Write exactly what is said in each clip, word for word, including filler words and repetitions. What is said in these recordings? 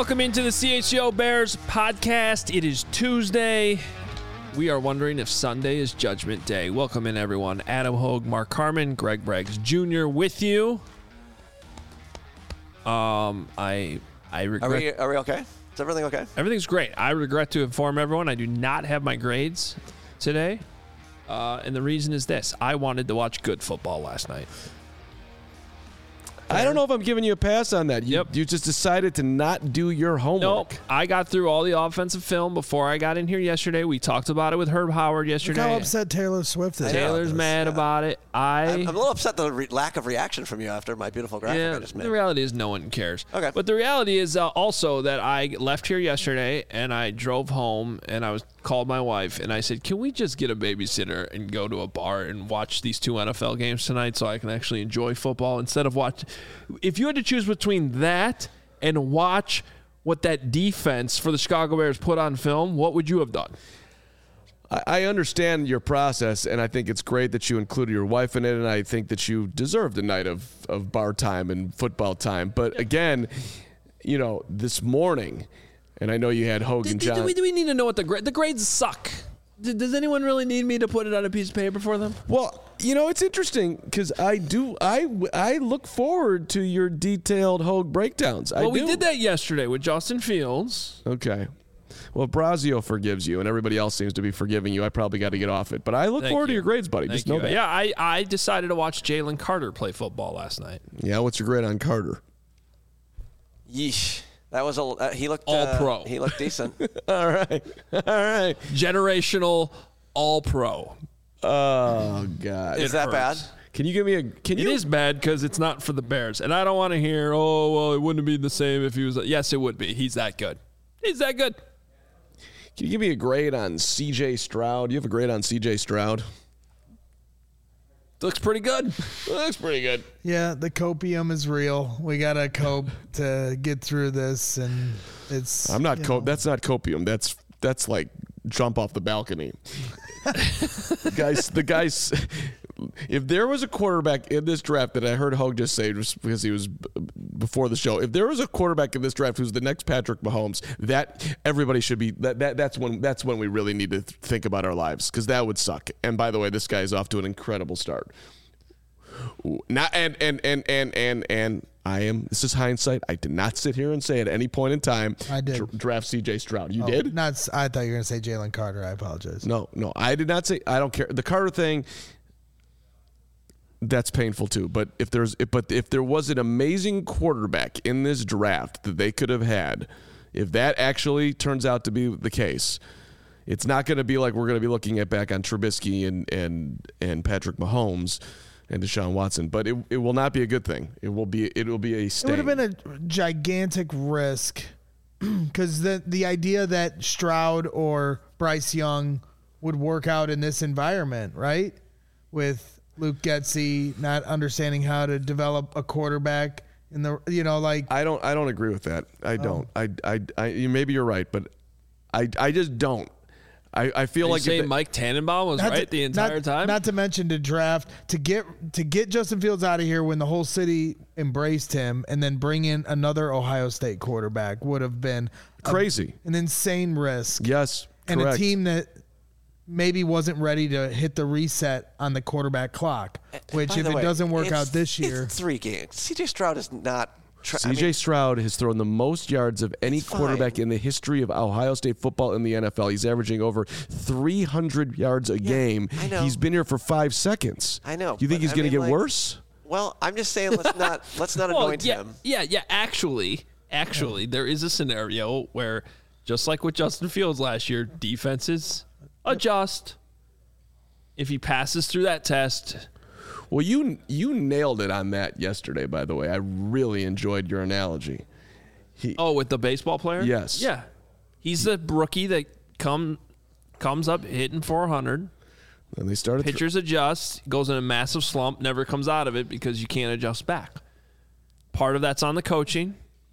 Welcome into the C H G O Bears podcast. It is Tuesday. We are wondering if Sunday is Judgment Day. Welcome in, everyone. Adam Hogue, Mark Carman, Greg Braggs Junior with you. Um, I I regret. Are we, are we okay? Is everything okay? Everything's great. I regret to inform everyone I do not have my grades today. Uh, and the reason is this. I wanted to watch good football last night. I don't know if I'm giving you a pass on that. You, Yep. you just decided to not do your homework. Nope. I got through all the offensive film before I got in here yesterday. We talked about it with Herb Howard yesterday. Look how upset Taylor Swift is. Taylor's mad Yeah. about it. I, I'm, I'm a little upset the re- lack of reaction from you after my beautiful graphic yeah, I just made. the reality is no one cares. Okay. But the reality is uh, also that I left here yesterday and I drove home and I was called my wife and I said, can we just get a babysitter and go to a bar and watch these two N F L games tonight so I can actually enjoy football instead of watch. If you had to choose between that and watch what that defense for the Chicago Bears put on film, what would you have done? I, I understand your process, and I think it's great that you included your wife in it, and I think that you deserved a night of, of bar time and football time. But again, you know, this morning, and I know you had Hogue and Do, John. do, we, do we need to know what the grade? The grades suck. D- Does anyone really need me to put it on a piece of paper for them? Well, you know, it's interesting because I do, I, I look forward to your detailed Hogue breakdowns. I Well, we do. did that yesterday with Justin Fields. Okay. Well, Brazio forgives you, and everybody else seems to be forgiving you. I probably got to get off it. But I look Thank forward to you. your grades, buddy. Thank Just know you. that. Yeah, I, I decided to watch Jalen Carter play football last night. Yeah, what's your grade on Carter? Yeesh. That was a. Uh, he looked All uh, pro. He looked decent. All right. All right. Generational all-pro. Oh, God. Is that bad? hurts. Can you give me a can It you is bad because it's not for the Bears. And I don't want to hear, oh, well, it wouldn't be the same if he was. Yes, it would be. He's that good. He's that good. Can you give me a grade on C J Stroud? You have a grade on C J Stroud? Looks pretty good. Looks pretty good. Yeah, the copium is real. We gotta cope to get through this, and it's. I'm not you co- know, that's not copium. That's that's like jump off the balcony. the guys the guys if there was a quarterback in this draft that I heard Hogue just say just because he was b- before the show, if there was a quarterback in this draft who's the next Patrick Mahomes, that everybody should be that, that that's when that's when we really need to th- think about our lives, because that would suck. And by the way, this guy is off to an incredible start. Ooh, Not and and and and and and I am. This is hindsight. I did not sit here and say at any point in time. I did. dr- draft C J Stroud. You oh, did? Not. s- I thought you were gonna say Jalen Carter. I apologize. No, no, I did not say. I don't care. The Carter thing. That's painful too. But if there's, if, but if there was an amazing quarterback in this draft that they could have had, if that actually turns out to be the case, it's not going to be like we're going to be looking at back on Trubisky and and and Patrick Mahomes and Deshaun Watson. But it it will not be a good thing. It will be it will be a It stain. would have been a gigantic risk because the the idea that Stroud or Bryce Young would work out in this environment, right? With Luke Getsy not understanding how to develop a quarterback in the, you know, like I don't I don't agree with that. Oh. I don't. I I, I you- maybe you're right, but I I just don't. I, I feel Are you like if saying they- Mike Tannenbaum was not right to- the entire not, time? Not to mention to draft to get to get Justin Fields out of here when the whole city embraced him, and then bring in another Ohio State quarterback would have been a- Crazy. an insane risk. Yes, and correct. a team that maybe wasn't ready to hit the reset on the quarterback clock. Which, By if the it way, doesn't work it's- out this year, it's three games. C J Stroud is not. Tra- I C J mean, Stroud has thrown the most yards of any It's quarterback fine. in the history of Ohio State football in the N F L. He's averaging over three hundred yards a game. I know. He's been here for five seconds. I know, You think but he's I going to mean, get like- worse? well, I'm just saying let's not let's not well, anoint yeah, him. yeah, yeah. Actually, actually, there is a scenario where, just like with Justin Fields last year, defenses adjust. If he passes through that test, Well, you you nailed it on that yesterday, by the way. I really enjoyed your analogy. oh, with the baseball player, Yes. yeah, he's the rookie that come comes up hitting four hundred. And they started thr- Pitchers adjust, goes in a massive slump, never comes out of it because you can't adjust back. Part of that's on the coaching.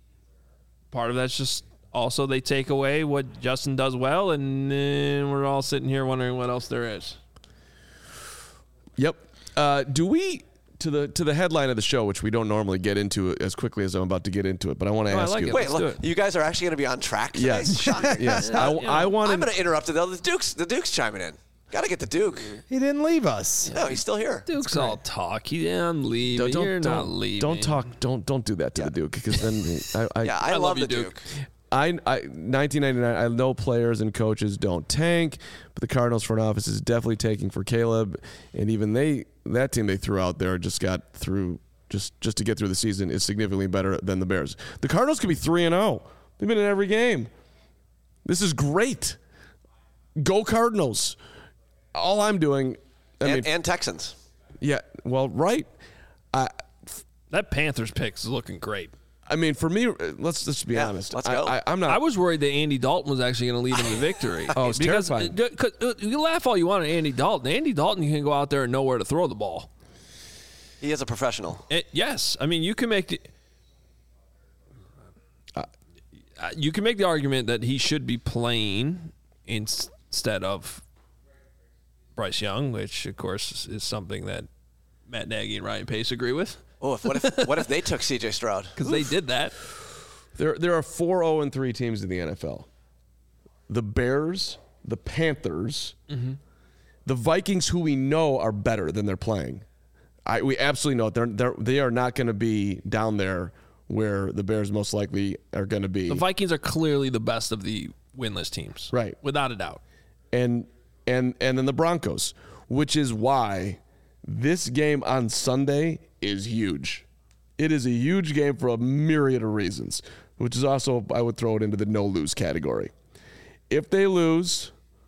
Part of that's just also they take away what Justin does well, and then we're all sitting here wondering what else there is. Yep. Uh, do we to the to the headline of the show, which we don't normally get into as quickly as I'm about to get into it, but I want to Oh, I ask like you. it. Wait, Let's do look, it. you guys are actually going to be on track today? Yes, Shocking. yes. Yeah, I, you know. I want I'm going to interrupt it, though. The Duke's, the Duke's chiming in. Got to get the Duke. He didn't leave us. No, he's still here. Duke's all talk. Yeah, I'm leaving. Don't, You're don't, not leaving. don't talk. Don't don't do that to the Duke, because then I, I, Yeah, I, I love, love the you, Duke. Duke. I, I nineteen ninety-nine. I know players and coaches don't tank, but the Cardinals front office is definitely taking for Caleb, and even they that team they threw out there just got through just just to get through the season is significantly better than the Bears. The Cardinals could be three and zero. They've been in every game. This is great. Go Cardinals. All I'm doing, I And, mean, and Texans. yeah, well, right. I That Panthers pick is looking great. I mean, for me, let's let's be Yeah, honest. let's I, go. I, I'm not. I was worried that Andy Dalton was actually going to lead him to victory. Oh, it's because, terrifying. uh, 'cause, uh, you laugh all you want at Andy Dalton. Andy Dalton can go out there and know where to throw the ball. He is a professional. It, yes, I mean you can make the, uh, you can make the argument that he should be playing in, instead of Bryce Young, which of course is, is something that Matt Nagy and Ryan Pace agree with Oh, if, what if what if they took C J Stroud? because they did that. There, there are four zero and three teams in the N F L. The Bears, the Panthers, Mm-hmm. the Vikings, who we know are better than they're playing. I, we absolutely know it. They're, they're, they are not going to be down there where the Bears most likely are going to be. The Vikings are clearly the best of the winless teams, Right. Without a doubt. and and and then the Broncos, which is why this game on Sunday is huge. It is a huge game for a myriad of reasons, which is also, I would throw it into the no lose category. If they lose,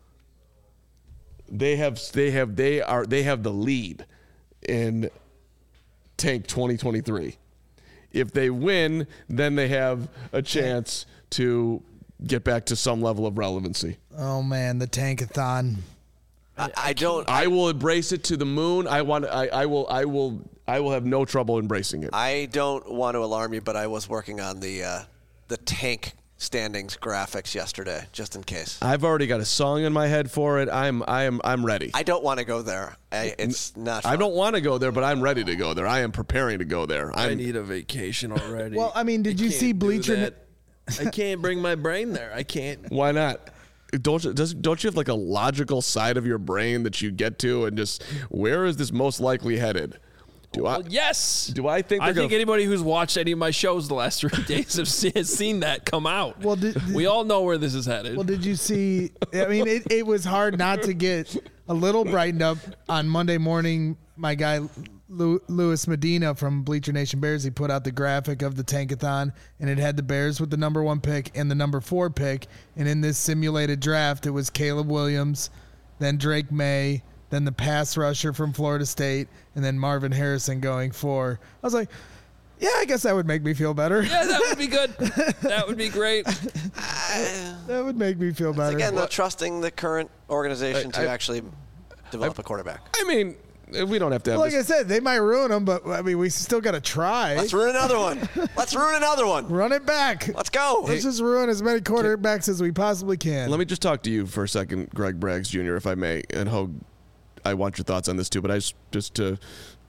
they have they have they are they have the lead in Tank twenty twenty-three. If they win, then they have a chance to get back to some level of relevancy. Oh man, the tankathon. I, I don't. I will embrace it to the moon. I want. I, I will. I will. I will have no trouble embracing it. I don't want to alarm you, but I was working on the uh, the tank standings graphics yesterday, just in case. I've already got a song in my head for it. I'm. I am. I'm ready. I don't want to go there. I, it's not. I fun. don't want to go there, but I'm ready to go there. I am preparing to go there. I I'm, need a vacation already. Well, I mean, did you can't see do Bleacher? that. I can't bring my brain there. I can't. Why not? Don't you, does, don't you have like a logical side of your brain that you get to and just where is this most likely headed? Do I? Well, yes. Do I think I they're think gonna- anybody who's watched any of my shows the last three days have seen, has seen that come out. Well, did- did- we all know where this is headed. Well, did you see? I mean, it, it was hard not to get a little brightened up on Monday morning. My guy Lu- Louis Medina from Bleacher Nation Bears, he put out the graphic of the tankathon, and it had the Bears with the number one pick and the number four pick. And in this simulated draft, it was Caleb Williams, then Drake May, then the pass rusher from Florida State, and then Marvin Harrison going four. I was like, yeah, I guess that would make me feel better. yeah, that would be good. That would be great. That would make me feel better. Again, not trusting the current organization I- to I- actually develop a quarterback. I mean, we don't have to have Like I this. said, they might ruin them, but I mean, we still got to try. Let's ruin another one. Let's ruin another one. Run it back. Let's go. Let's just ruin as many quarterbacks as we possibly can. Let me just talk to you for a second, Greg Braggs Junior, if I may, and Hogue, I want your thoughts on this too, but I just, just to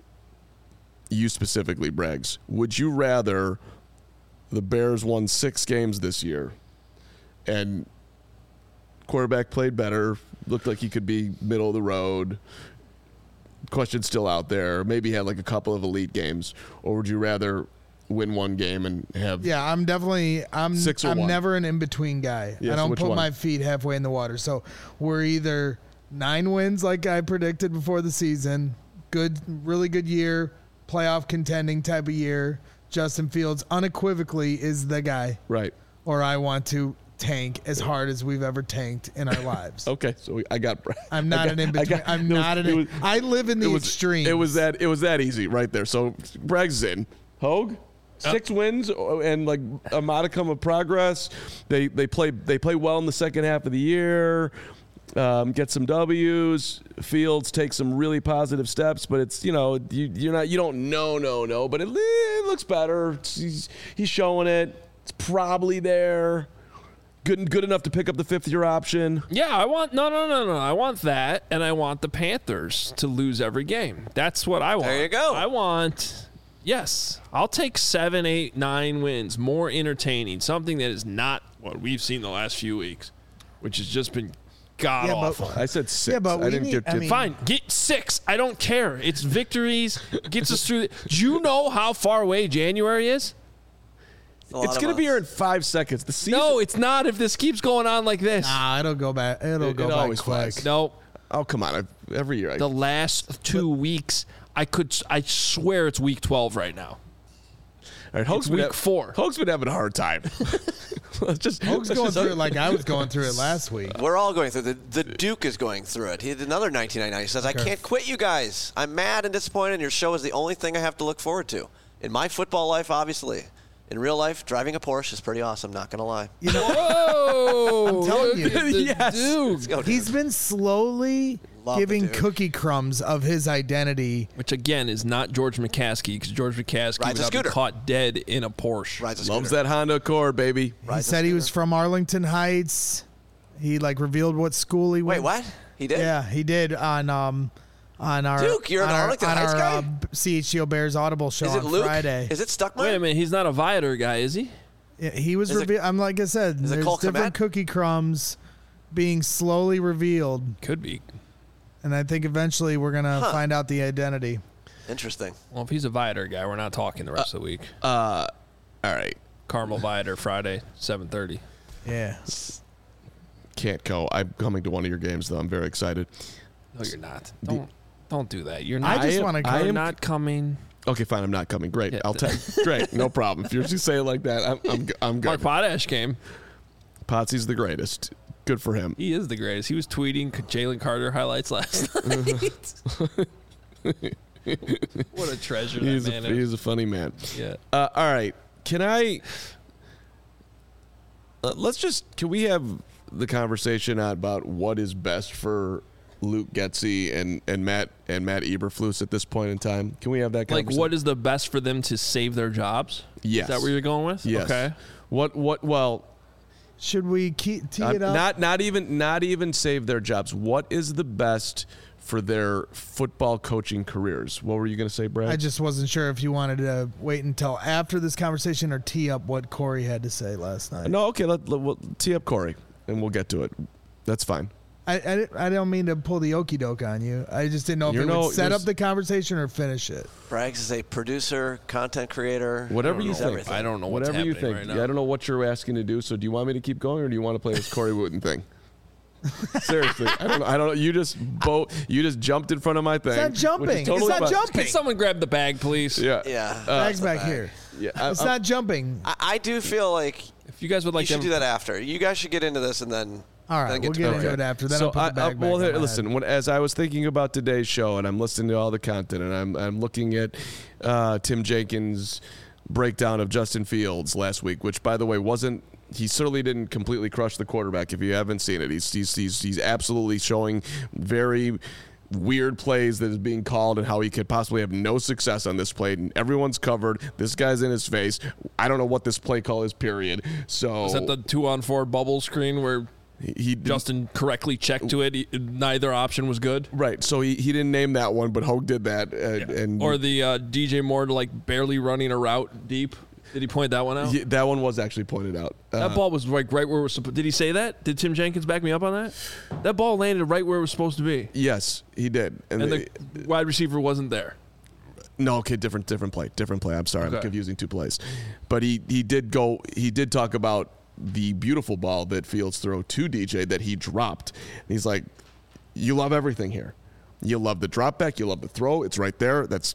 you specifically, Braggs, would you rather the Bears won six games this year and quarterback played better, looked like he could be middle of the road, question still out there, maybe had like a couple of elite games, or would you rather win one game and have yeah, I'm definitely I'm Six or I'm one? never an in between guy. Yeah, I so don't which put one? my feet halfway in the water. So we're either nine wins like I predicted before the season, good, really good year, playoff contending type of year. Justin Fields unequivocally is the guy, right? or I want to tank as hard as we've ever tanked in our lives. Okay, so we, I got. I'm not I got- an in I between. got- I'm it was- not an. it in- was- I live in the it was, extreme. It was that. It was that easy right there. So Braggs is in. Hogue, six wins and like a modicum of progress. They they play they play well in the second half of the year. Um, get some W's. Fields take some really positive steps, but it's you know you you're not you don't know no no, but it, it looks better. It's- he's he's showing it. It's probably there. good good enough to pick up the fifth year option. Yeah, I want no, no, no, no. I want that, and I want the Panthers to lose every game. That's what I want. There you go. I want. Yes, I'll take seven, eight, nine wins. More entertaining. Something that is not what we've seen the last few weeks, which has just been god Yeah, but- awful. I said six. Yeah, but I we didn't need- get I to mean- Fine, get six. I don't care. It's victories. Gets us through. The, do you know how far away January is? A lot It's of going to be us. here in five seconds. The season. No, it's not. If this keeps going on like this, Nah, it'll go back. It'll It- go it back always quick. flies. no. Oh, come on. I, every year. I, The last two weeks, I could. I swear it's week twelve right now. all right, Hoke's it's been week ha- four. Hoke's been having a hard time. Let's just, Hoke's let's going just- through it like I was going through it last week. We're all going through the the Duke is going through it. He did another nineteen ninety-nine. He says, "I can't quit you guys. I'm mad and disappointed. And your show is the only thing I have to look forward to in my football life. Obviously, in real life, driving a Porsche is pretty awesome. Not gonna lie. You know, Whoa! I'm telling you. Look at the Yes. Duke. Let's go, he's Duke. been slowly Love the giving Duke. cookie crumbs of his identity. Which again is not George McCaskey, because George McCaskey Rides would a not be scooter. caught dead in a Porsche. Rides a Loves scooter. that Honda Accord, baby. He Rides a said he was scooter. from Arlington Heights. He like revealed what school he Wait, went. what? He did? Yeah, he did on um on our Duke, you're an on our, Arlington on Heights our, guy? Uh, C H G O Bears Audible show Is it on Luke? Friday. Is it Stuckmeyer? Wait a minute, he's not a Viator guy, is he? Yeah, he was Is it- revealed. I'm like I said, is it there's Cole different Kmet? cookie crumbs being slowly revealed, Could be. and I think eventually we're gonna Huh. find out the identity. Interesting. Well, if he's a Viator guy, we're not talking the rest of the week. Uh, all right. Carmel Viator Friday, seven thirty. Yeah, Can't go. I'm coming to one of your games, though. I'm very excited. No, you're not. Don't don't do that. You're not. I just am- want to I go. You're am- not coming. Okay, fine. I'm not coming. Great. Yeah. I'll take. Great. No problem. If you're just saying it like that, I'm I'm, g- I'm Mark good. Potash came. Potsy's the greatest. Good for him. He is the greatest. He was tweeting Jalen Carter highlights last night. What a treasure that He's a, man is. he's a funny man. Yeah. Uh, all right. Can I? Uh, let's just. Can we have the conversation about what is best for Luke Getsy and, and Matt and Matt Eberflus at this point in time? Can we have that Like, conversation? what is the best for them to save their jobs? Yes. Is that where you're going with? Yes. Okay. What? What? Well, Should we keep tee uh, it up? not not even not even save their jobs. What is the best for their football coaching careers? What were you going to say, Brad? I just wasn't sure if you wanted to wait until after this conversation or tee up what Corey had to say last night. no. Okay. Let, let we'll tee up Corey, and we'll get to it. That's fine. I, I, I don't mean to pull the okey doke on you. I just didn't know if You're it no- would set there's- up the conversation or finish it. Braggs is a producer, content creator. Whatever you He's think. everything. I don't know what's Whatever you happening think. right Yeah, I now. don't know what you're asking to do. So, do you want me to keep going, or do you want to play this Corey Wooten thing? Seriously, I don't know. I don't know. You just bo- You just jumped in front of my thing. not jumping. which is totally It's not fine. jumping. Can someone grab the bag, please? Yeah. Yeah. Bags the back bag. here. Yeah. I, It's I'm- not jumping. I, I do feel like If you guys would you like to should do that after. You guys should get into this and then. All then right, we'll to get Corey. into it after. Then so I'll put I, the bag I, back well, on here, my listen. head. When, as I was thinking about today's show, and I'm listening to all the content, and I'm I'm looking at uh, Tim Jenkins' breakdown of Justin Fields last week, which, by the way, wasn't. He certainly didn't completely crush the quarterback. If you haven't seen it, he's he's he's, he's absolutely showing very weird plays that is being called and how he could possibly have no success on this play. And everyone's covered. This guy's in his face. I don't know what this play call is. Period. So Is that the two on four bubble screen where he, he Justin correctly checked to it? He- neither option was good. right. So he, he didn't name that one, but Hogue did that. And, and Or the uh, D J Moore like barely running a route deep. Did he point that one out? Yeah, that one was actually pointed out. Uh, That ball was like right where it was supposed. Did he say that? Did Tim Jenkins back me up on that? That ball landed right where it was supposed to be, yes, he did. And, and the, the wide receiver wasn't there. no, okay, different different play, different play. I'm sorry, I'm Okay. confusing two plays. But he he did go. He did talk about the beautiful ball that Fields threw to D J that he dropped. And he's like, "You love everything here. You love the drop back. You love the throw. It's right there. That's."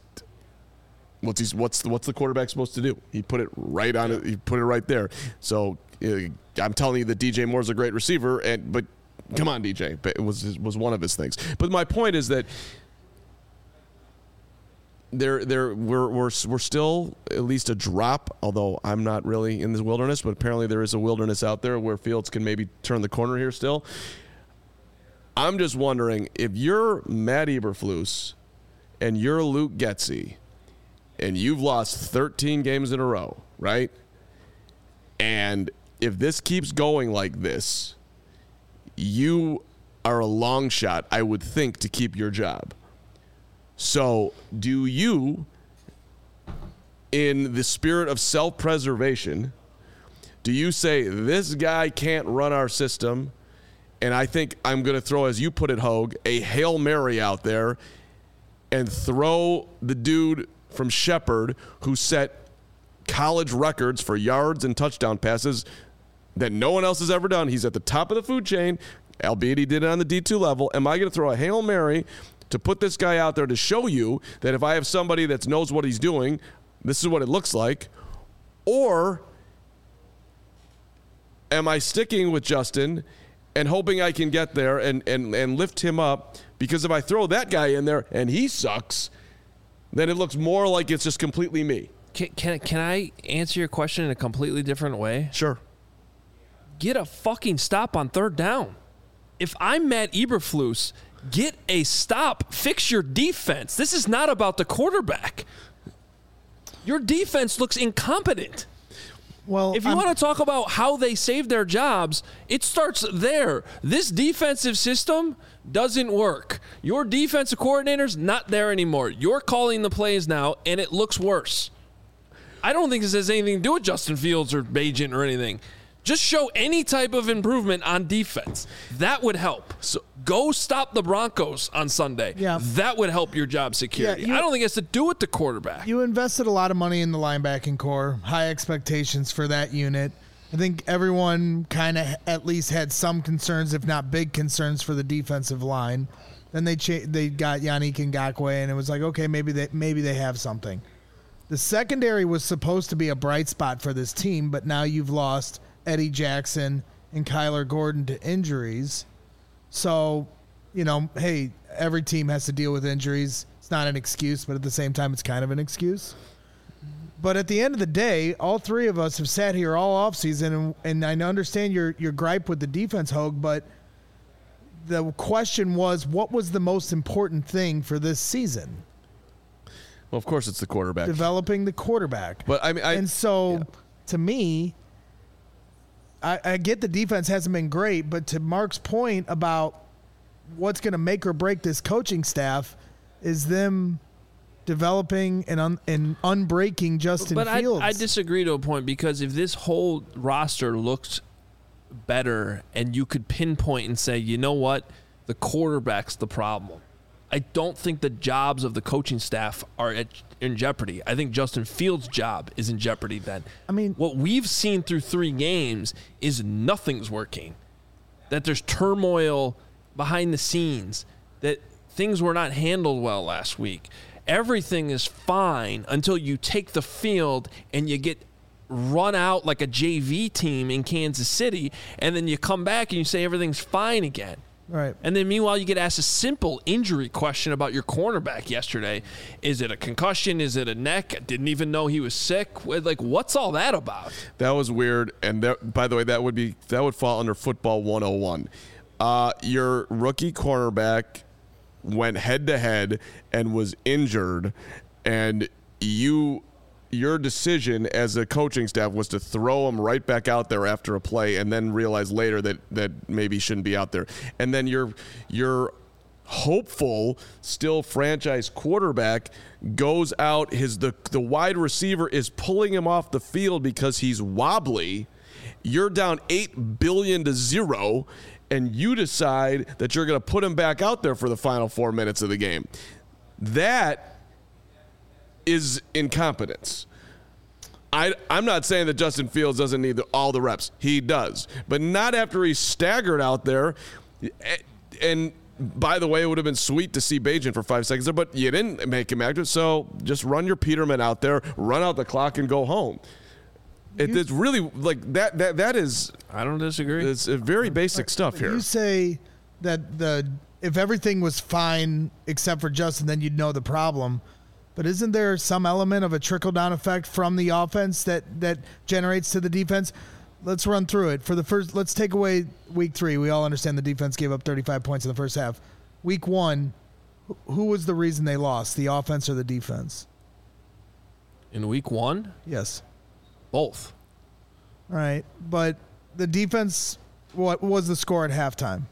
What's he, what's the, what's the quarterback supposed to do? He put it right on it. He put it right there. So uh, I'm telling you that D J Moore's a great receiver, and but come on, D J, but it was was one of his things. But my point is that there there we're we're we're still at least a drop. Although I'm not really in this wilderness, but apparently there is a wilderness out there where Fields can maybe turn the corner here. Still, I'm just wondering if you're Matt Eberflus and you're Luke Getsy. And you've lost thirteen games in a row, right? And if this keeps going like this, you are a long shot, I would think, to keep your job. So do you, in the spirit of self-preservation, do you say, this guy can't run our system, and I think I'm going to throw, as you put it, Hogue, a Hail Mary out there and throw the dude from Shepherd who set college records for yards and touchdown passes that no one else has ever done. He's at the top of the food chain, albeit he did it on the D two level. Am I going to throw a Hail Mary to put this guy out there to show you that if I have somebody that knows what he's doing, this is what it looks like? Or am I sticking with Justin and hoping I can get there and, and, and lift him up? Because if I throw that guy in there and he sucks, then it looks more like it's just completely me. Can, can, can I answer your question in a completely different way? Sure. Get a fucking stop on third down. If I'm Matt Eberflus, get a stop. Fix your defense. This is not about the quarterback. Your defense looks incompetent. Well, if you I'm, want to talk about how they save their jobs, it starts there. This defensive system doesn't work. Your defensive coordinator's not there anymore. You're calling the plays now, and it looks worse. I don't think this has anything to do with Justin Fields or Bagent or anything. Just show any type of improvement on defense. That would help. So go stop the Broncos on Sunday. Yeah. That would help your job security. Yeah, you, I don't think it has to do with the quarterback. You invested a lot of money in the linebacking core, high expectations for that unit. I think everyone kind of at least had some concerns, if not big concerns, for the defensive line. Then they cha- they got Yannick Ngakoue, and it was like, okay, maybe they maybe they have something. The secondary was supposed to be a bright spot for this team, but now you've lost Eddie Jackson and Kyler Gordon to injuries. So, you know, hey, every team has to deal with injuries. It's not an excuse, but at the same time, it's kind of an excuse. But at the end of the day, all three of us have sat here all offseason, and, and I understand your your gripe with the defense, Hogue, but the question was, what was the most important thing for this season? Well, of course, it's the quarterback. Developing the quarterback. But I mean, I, and so, yeah. to me, I, I get the defense hasn't been great, but to Mark's point about what's going to make or break this coaching staff is them developing and un, and unbreaking Justin but Fields. I, I disagree to a point, because if this whole roster looked better and you could pinpoint and say, you know what, the quarterback's the problem, I don't think the jobs of the coaching staff are at, in jeopardy. I think Justin Fields' job is in jeopardy then. I mean, what we've seen through three games is nothing's working. That there's turmoil behind the scenes, that things were not handled well last week. Everything is fine until you take the field and you get run out like a J V team in Kansas City, and then you come back and you say everything's fine again. Right. And then meanwhile, you get asked a simple injury question about your cornerback yesterday. Is it a concussion? Is it a neck? I didn't even know he was sick. Like, what's all that about? That was weird. And that, by the way, that would be that would fall under football one oh one. Uh, your rookie cornerback went head to head and was injured, and you your decision as a coaching staff was to throw him right back out there after a play, and then realize later that that maybe he shouldn't be out there. And then your your hopeful still franchise quarterback goes out, his the the wide receiver is pulling him off the field because he's wobbly. You're down eight billion to zero, and you decide that you're going to put him back out there for the final four minutes of the game. That is incompetence. I, I'm not saying that Justin Fields doesn't need the, all the reps. He does. But not after he's staggered out there. And by the way, it would have been sweet to see Bagent for five seconds there, but you didn't make him active. So just run your Peterman out there, run out the clock, and go home. It, it's really like that. That that is. I don't disagree. It's a very basic stuff here. You say that the if everything was fine except for Justin, then you'd know the problem. But isn't there some element of a trickle-down effect from the offense that, that generates to the defense? Let's run through it. For the first, let's take away week three. We all understand the defense gave up thirty-five points in the first half. Week one, who was the reason they lost, the offense or the defense? In week one? Yes. Both. All right. But the defense, what was the score at halftime?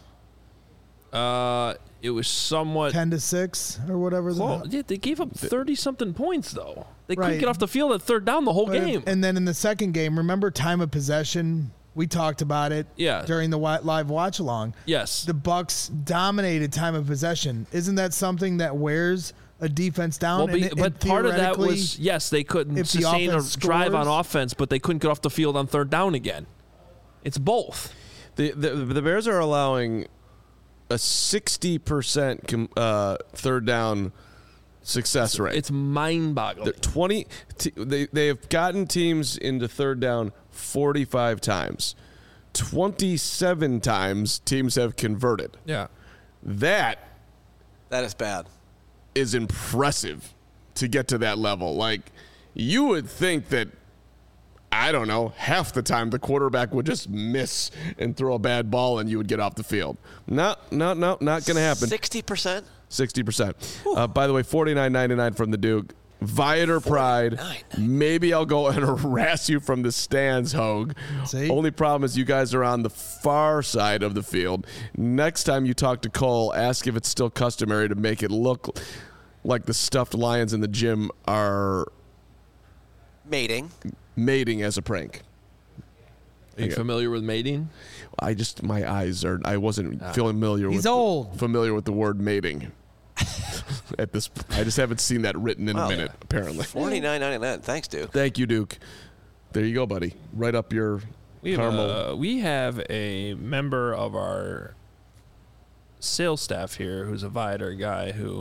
Uh, it was somewhat ten to six or whatever. Well, The, yeah, they gave up thirty something points though. They Right. couldn't get off the field at third down the whole but- game. And then in the second game, remember time of possession? We talked about it Yeah. during the wi- live watch along. Yes. The Bucks dominated time of possession. Isn't that something that wears a defense down? Well, And be, it- but and part of that theoretically, was yes, they couldn't if the sustain a offense drive on scores- offense, but they couldn't get off the field on third down again. It's both. The, the the Bears are allowing a sixty percent com, uh, third down success rate. It's mind-boggling. They're twenty. T- they they have gotten teams into third down forty-five times. twenty-seven times teams have converted. Yeah. That That is bad. is impressive to get to that level. Like, you would think that, I don't know, half the time the quarterback would just miss and throw a bad ball and you would get off the field. No, no, no, not going to happen. Sixty percent. sixty percent. Uh, by the way, forty-nine ninety-nine from the Duke. Viator Pride. Maybe I'll go and harass you from the stands, Hogue. See? Only problem is you guys are on the far side of the field. Next time you talk to Cole, ask if it's still customary to make it look like the stuffed lions in the gym are Mating. mating as a prank. Are you Yeah. familiar with mating? I just, my eyes are, I wasn't familiar He's with old. The, familiar with the word mating. At this, I just haven't seen that written in Well, a minute, apparently. Forty-nine ninety-nine. Thanks, Duke. Thank you, Duke. There you go, buddy. Right up your We have, caramel. uh, we have a member of our sales staff here who's a Viator guy who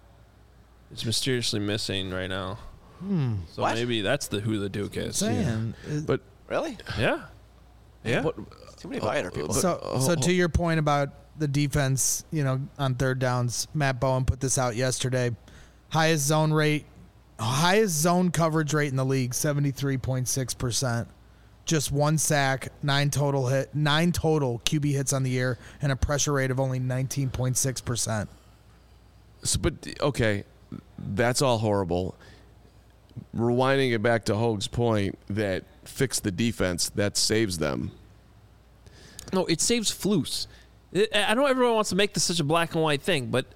is mysteriously missing right now. So What? maybe that's the who the Duke is. saying. It- but Really? Yeah. Yeah. but Too many Viator people. So, so to your point about the defense, you know, on third downs, Matt Bowen put this out yesterday. Highest zone rate, highest zone coverage rate in the league, seventy-three point six percent. Just one sack, nine total hit, nine total Q B hits on the year, and a pressure rate of only nineteen point six percent. So, but okay, that's all horrible. Rewinding it back to Hogue's point that fix the defense, that saves them. No, it saves Flus. I I know everyone wants to make this such a black and white thing, but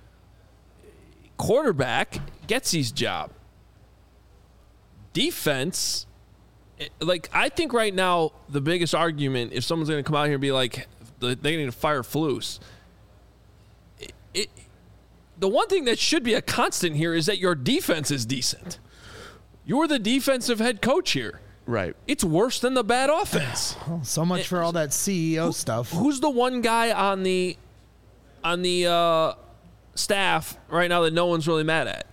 quarterback gets his job. Defense, it- like I think right now the biggest argument, if someone's going to come out here and be like, the- they need to fire Flus, it, it, the one thing that should be a constant here is that your defense is decent. You're the defensive head coach here. Right. It's worse than the bad offense. Oh, so much for all that C E O stuff. Who's the one guy on the on the uh, staff right now that no one's really mad at?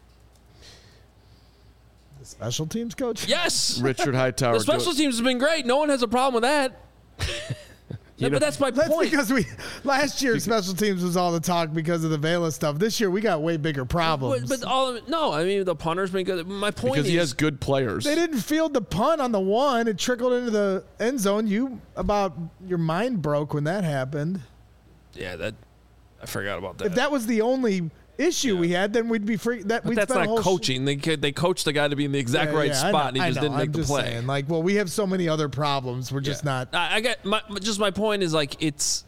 The special teams coach? Yes, Richard Hightower. the special doing- teams has been great. No one has a problem with that. Yeah, know- but that's my That's point. because we last year special teams was all the talk because of the Vela stuff. This year we got way bigger But, problems. but all of it, no, I mean the punter's been good. My point because is he has good players. they didn't field the punt on the one. It trickled into the end zone. You about your mind broke when that happened. yeah, that I forgot about that. If that was the only issue we had, then we'd be free. That but we'd that's spend a not whole coaching. They could- they coached the guy to be in the exact Yeah, right yeah, I spot, know, and he I just know, didn't make I'm the just play. saying, like, well, we have so many other problems. We're just not. I, I got my just my point is like it's.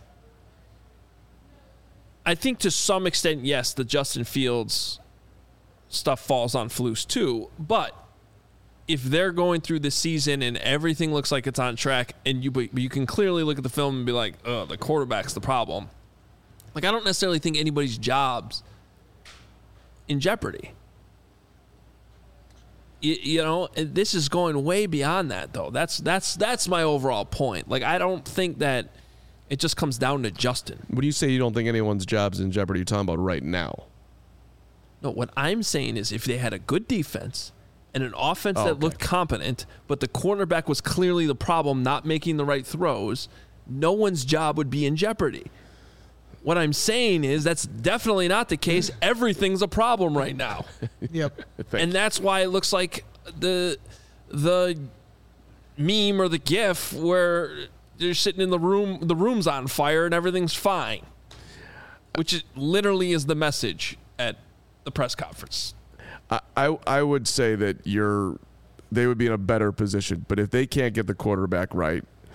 I think to some extent, yes, the Justin Fields stuff falls on Flus too. But if they're going through the season and everything looks like it's on track, and you but you can clearly look at the film and be like, "Oh, the quarterback's the problem." Like I don't necessarily think anybody's job's in jeopardy. You, you know, and this is going way beyond that, though. That's that's that's my overall point. Like I don't think that it just comes down to Justin. When you say you don't think anyone's job's in jeopardy, you're talking about right now. No, what I'm saying is if they had a good defense and an offense Oh, that okay. looked competent, but the cornerback was clearly the problem, not making the right throws, no one's job would be in jeopardy. What I'm saying is that's definitely not the case. Everything's a problem right now. Yep. Thank And that's why it looks like the the meme or the gif where they're sitting in the room, the room's on fire and everything's fine, which is, literally is the message at the press conference. I, I I would say that you're they would be in a better position, but if they can't get the quarterback right,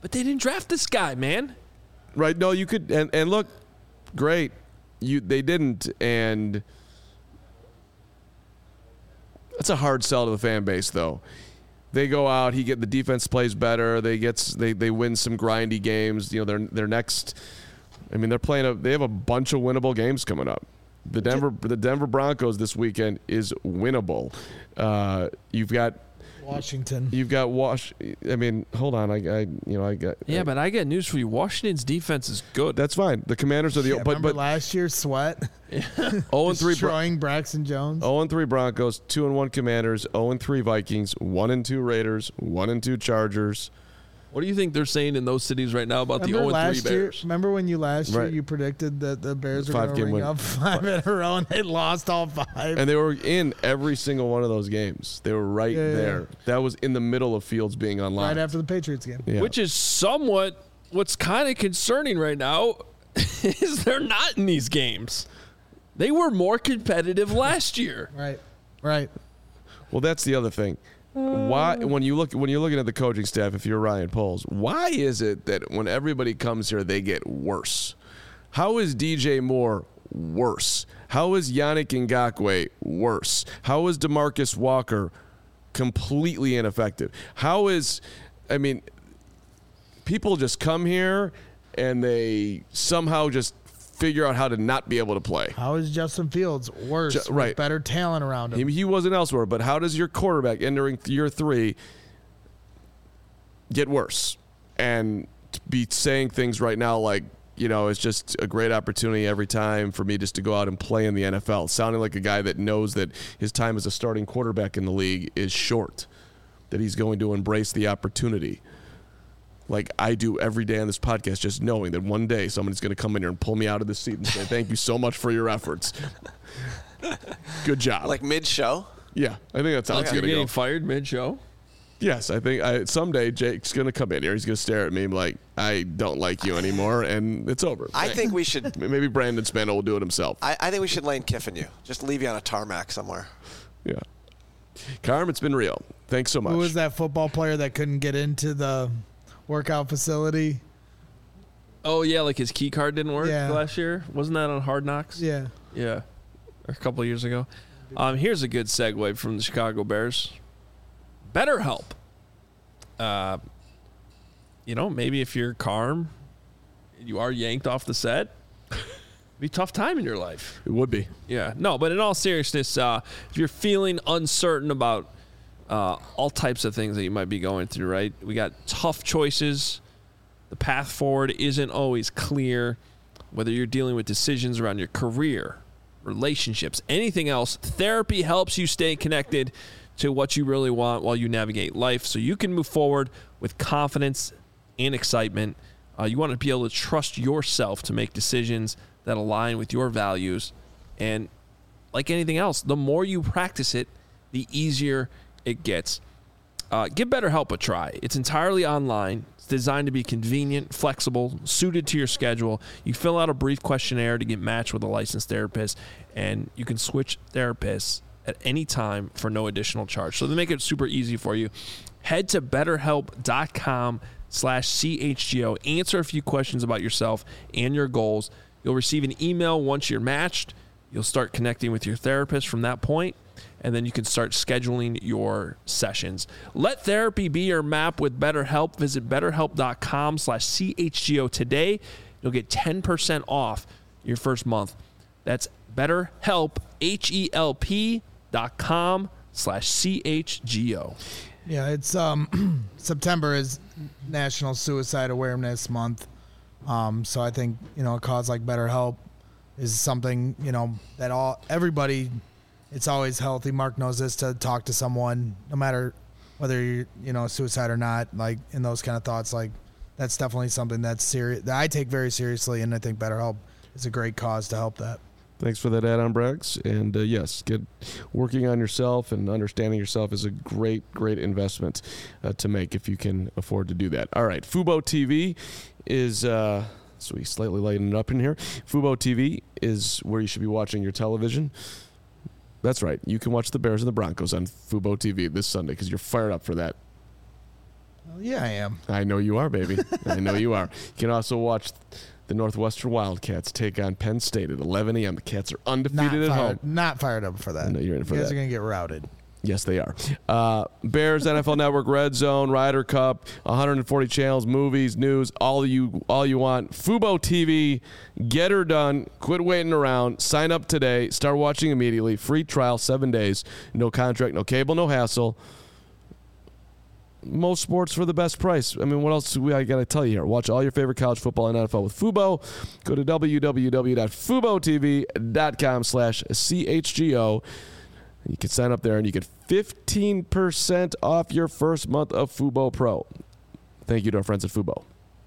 But they didn't draft this guy, man. Right? No, you could, and, and look, great. You they didn't, and that's a hard sell to the fan base, though. They go out, he get the defense plays better. They get they they win some grindy games. You know, their their next. I mean, they're playing a. They have a bunch of winnable games coming up. The Denver the Denver Broncos this weekend is winnable. Uh, you've got Washington. You've got Wash. I mean, hold on. I, I you know I got. Yeah, I, but I got news for you. Washington's defense is good. That's fine. The Commanders are the. Yeah, but remember but last year, Sweat oh and three. destroying Braxton Jones. oh and three Broncos, two and one Commanders, oh and three Vikings, one and two Raiders, one and two Chargers. What do you think they're saying in those cities right now about remember the oh and three last year, Bears? Remember when you last year Right. you predicted that the Bears were Five going to game ring win. up five in a row and they lost all five? And they were in every single one of those games. They were right Yeah, yeah, there. yeah. That was in the middle of Fields being online. Right after the Patriots game. Yeah. Which is somewhat what's kind of concerning right now is they're not in these games. They were more competitive last year. Right. Right. Well, that's the other thing. Why, when you look, when you're looking at the coaching staff, if you're Ryan Poles, why is it that when everybody comes here, they get worse? How is D J Moore worse? How is Yannick Ngakoue worse? How is DeMarcus Walker completely ineffective? How is, I mean, people just come here and they somehow just figure out how to not be able to play. How is Justin Fields worse? Ju- right. With better talent around him. He, he wasn't elsewhere, but how does your quarterback entering year three get worse and be saying things right now like, you know, it's just a great opportunity every time for me just to go out and play in the N F L, sounding like a guy that knows that his time as a starting quarterback in the league is short, that he's going to embrace the opportunity. Like I do every day on this podcast, just knowing that one day somebody's going to come in here and pull me out of the seat and say, thank you so much for your efforts. Good job. Like mid-show? Yeah, I think that's how it's You're going to getting go. fired mid-show? Yes, I think I, someday Jake's going to come in here. He's going to stare at me like, I don't like you anymore, and it's over. I think we should. Maybe Brandon Spano will do it himself. I, I think we should Lane Kiffin you. Just leave you on a tarmac somewhere. Yeah. Carm, it's been real. Thanks so much. Who was that football player that couldn't get into the workout facility? Oh, yeah, like his key card didn't work Yeah. last year? Wasn't that on Hard Knocks? Yeah. Yeah, or a couple of years ago. Um, here's a good segue from the Chicago Bears. BetterHelp. Uh, you know, maybe if you're Carm, you are yanked off the set, it'd be a tough time in your life. It would be. Yeah, no, but in all seriousness, uh, if you're feeling uncertain about uh, all types of things that you might be going through, right? We got tough choices. The path forward isn't always clear. Whether you're dealing with decisions around your career, relationships, anything else, therapy helps you stay connected to what you really want while you navigate life so you can move forward with confidence and excitement. Uh, you want to be able to trust yourself to make decisions that align with your values. And like anything else, the more you practice it, the easier it gets. Uh, give BetterHelp a try. It's entirely online. It's designed to be convenient, flexible, suited to your schedule. You fill out a brief questionnaire to get matched with a licensed therapist, and you can switch therapists at any time for no additional charge. So they make it super easy for you. Head to betterhelp.com slash CHGO. Answer a few questions about yourself and your goals. You'll receive an email once you're matched. You'll start connecting with your therapist from that point, and then you can start scheduling your sessions. Let therapy be your map with BetterHelp. Visit betterhelp.com slash CHGO today. You'll get ten percent off your first month. That's BetterHelp, H E L P dot com slash C H G O. Yeah, it's um September is National Suicide Awareness Month. Um, so I think, you know, a cause like BetterHelp is something, you know, that all everybody, it's always healthy. Mark knows this, to talk to someone, no matter whether you're, you know, suicide or not, like in those kind of thoughts. Like that's definitely something that's serious that I take very seriously, and I think BetterHelp is a great cause to help that. Thanks for that add-on, Brax. And uh, yes, get working on yourself and understanding yourself is a great, great investment uh, to make if you can afford to do that. All right, Fubo T V is, uh, so we slightly lighten it up in here. Fubo T V is where you should be watching your television. That's right. You can watch the Bears and the Broncos on Fubo T V this Sunday because you're fired up for that. Well, yeah, I am. I know you are, baby. I know you are. You can also watch the Northwestern Wildcats take on Penn State at eleven a.m. The Cats are undefeated Not at fired, home. not fired up for that. No, you're in for you guys that. are going to get routed. Yes, they are. Uh, Bears, N F L Network, Red Zone, Ryder Cup, one hundred forty channels, movies, news, all you all you want. Fubo T V, get her done. Quit waiting around. Sign up today. Start watching immediately. Free trial, seven days. No contract, no cable, no hassle. Most sports for the best price. I mean, what else do we I got to tell you here? Watch all your favorite college football and N F L with Fubo. Go to w w w dot fubo t v dot com slash c h g o. You can sign up there and you get fifteen percent off your first month of Fubo Pro. Thank you to our friends at Fubo.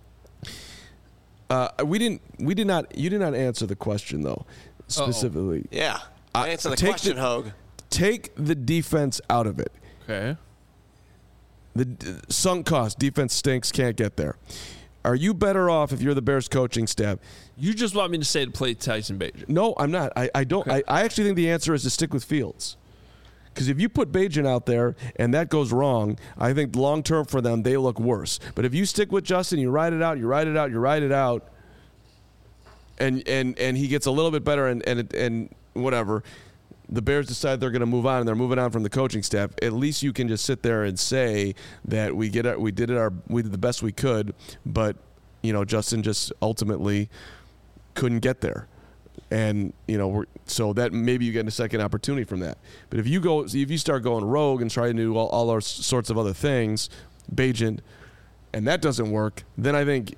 Uh, we didn't. We did not. You did not answer the question though, specifically. Uh-oh. Yeah. I Uh, answer the take question, the- Hogue. Take the defense out of it. Okay. The d- sunk cost defense stinks. Can't get there. Are you better off if you're the Bears coaching staff? You just want me to say to play Tyson Bagent. No, I'm not. I, I don't. Okay. I, I actually think the answer is to stick with Fields. Because if you put Bagent out there and that goes wrong, I think long term for them they look worse. But if you stick with Justin, you ride it out, you ride it out, you ride it out, and and and he gets a little bit better, and and and whatever. The Bears decide they're going to move on, and they're moving on from the coaching staff. At least you can just sit there and say that we get it, we did it our we did the best we could, but you know Justin just ultimately couldn't get there, and you know we're, so that maybe you get a second opportunity from that. But if you go, if you start going rogue and try to do all, all those sorts of other things, Bagent, and that doesn't work, then I think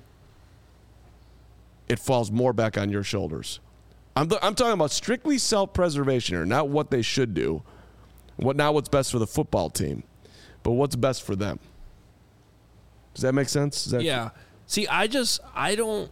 it falls more back on your shoulders. I'm, th- I'm talking about strictly self-preservation here, not what they should do, what not what's best for the football team, but what's best for them. Does that make sense? Does that Yeah. See, I just I don't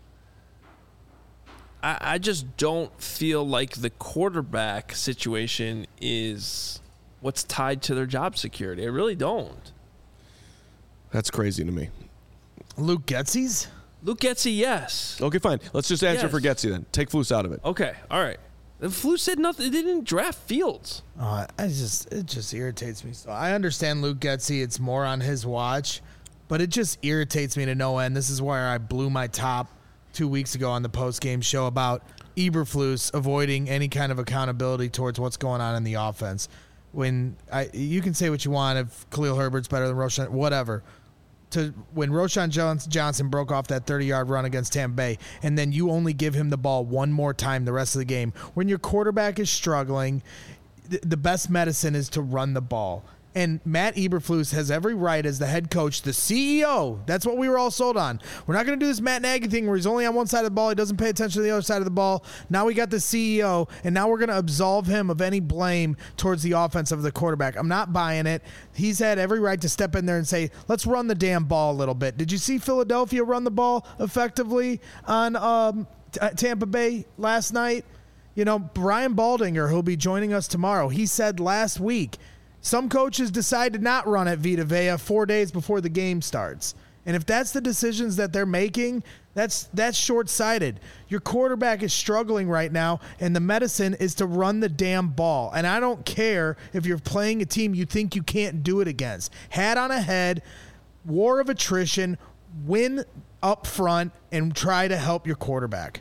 I, I just don't feel like the quarterback situation is what's tied to their job security. I really don't. That's crazy to me. Luke Getsy's? Luke Getsy, yes. Okay, fine. Let's just answer Yes. for Getsy then. Take Flus out of it. Okay, all right. The Flu said nothing. They didn't draft Fields. Uh, I just it just irritates me. So I understand Luke Getsy. It's more on his watch, but it just irritates me to no end. This is where I blew my top two weeks ago on the post game show about Eberflus avoiding any kind of accountability towards what's going on in the offense. When I you can say what you want if Khalil Herbert's better than Roshan, whatever. To when Roshan Jones, Johnson broke off that thirty-yard run against Tampa Bay, and then you only give him the ball one more time the rest of the game. When your quarterback is struggling, th- the best medicine is to run the ball. And Matt Eberflus has every right as the head coach, the C E O. That's what we were all sold on. We're not going to do this Matt Nagy thing where he's only on one side of the ball. He doesn't pay attention to the other side of the ball. Now we got the C E O, and now we're going to absolve him of any blame towards the offense of the quarterback. I'm not buying it. He's had every right to step in there and say, let's run the damn ball a little bit. Did you see Philadelphia run the ball effectively on um, t- Tampa Bay last night? You know, Brian Baldinger, who'll be joining us tomorrow, he said last week, some coaches decide to not run at Vita Vea four days before the game starts. And if that's the decisions that they're making, that's that's short-sighted. Your quarterback is struggling right now, and the medicine is to run the damn ball. And I don't care if you're playing a team you think you can't do it against. Hat on a head, war of attrition, win up front, and try to help your quarterback.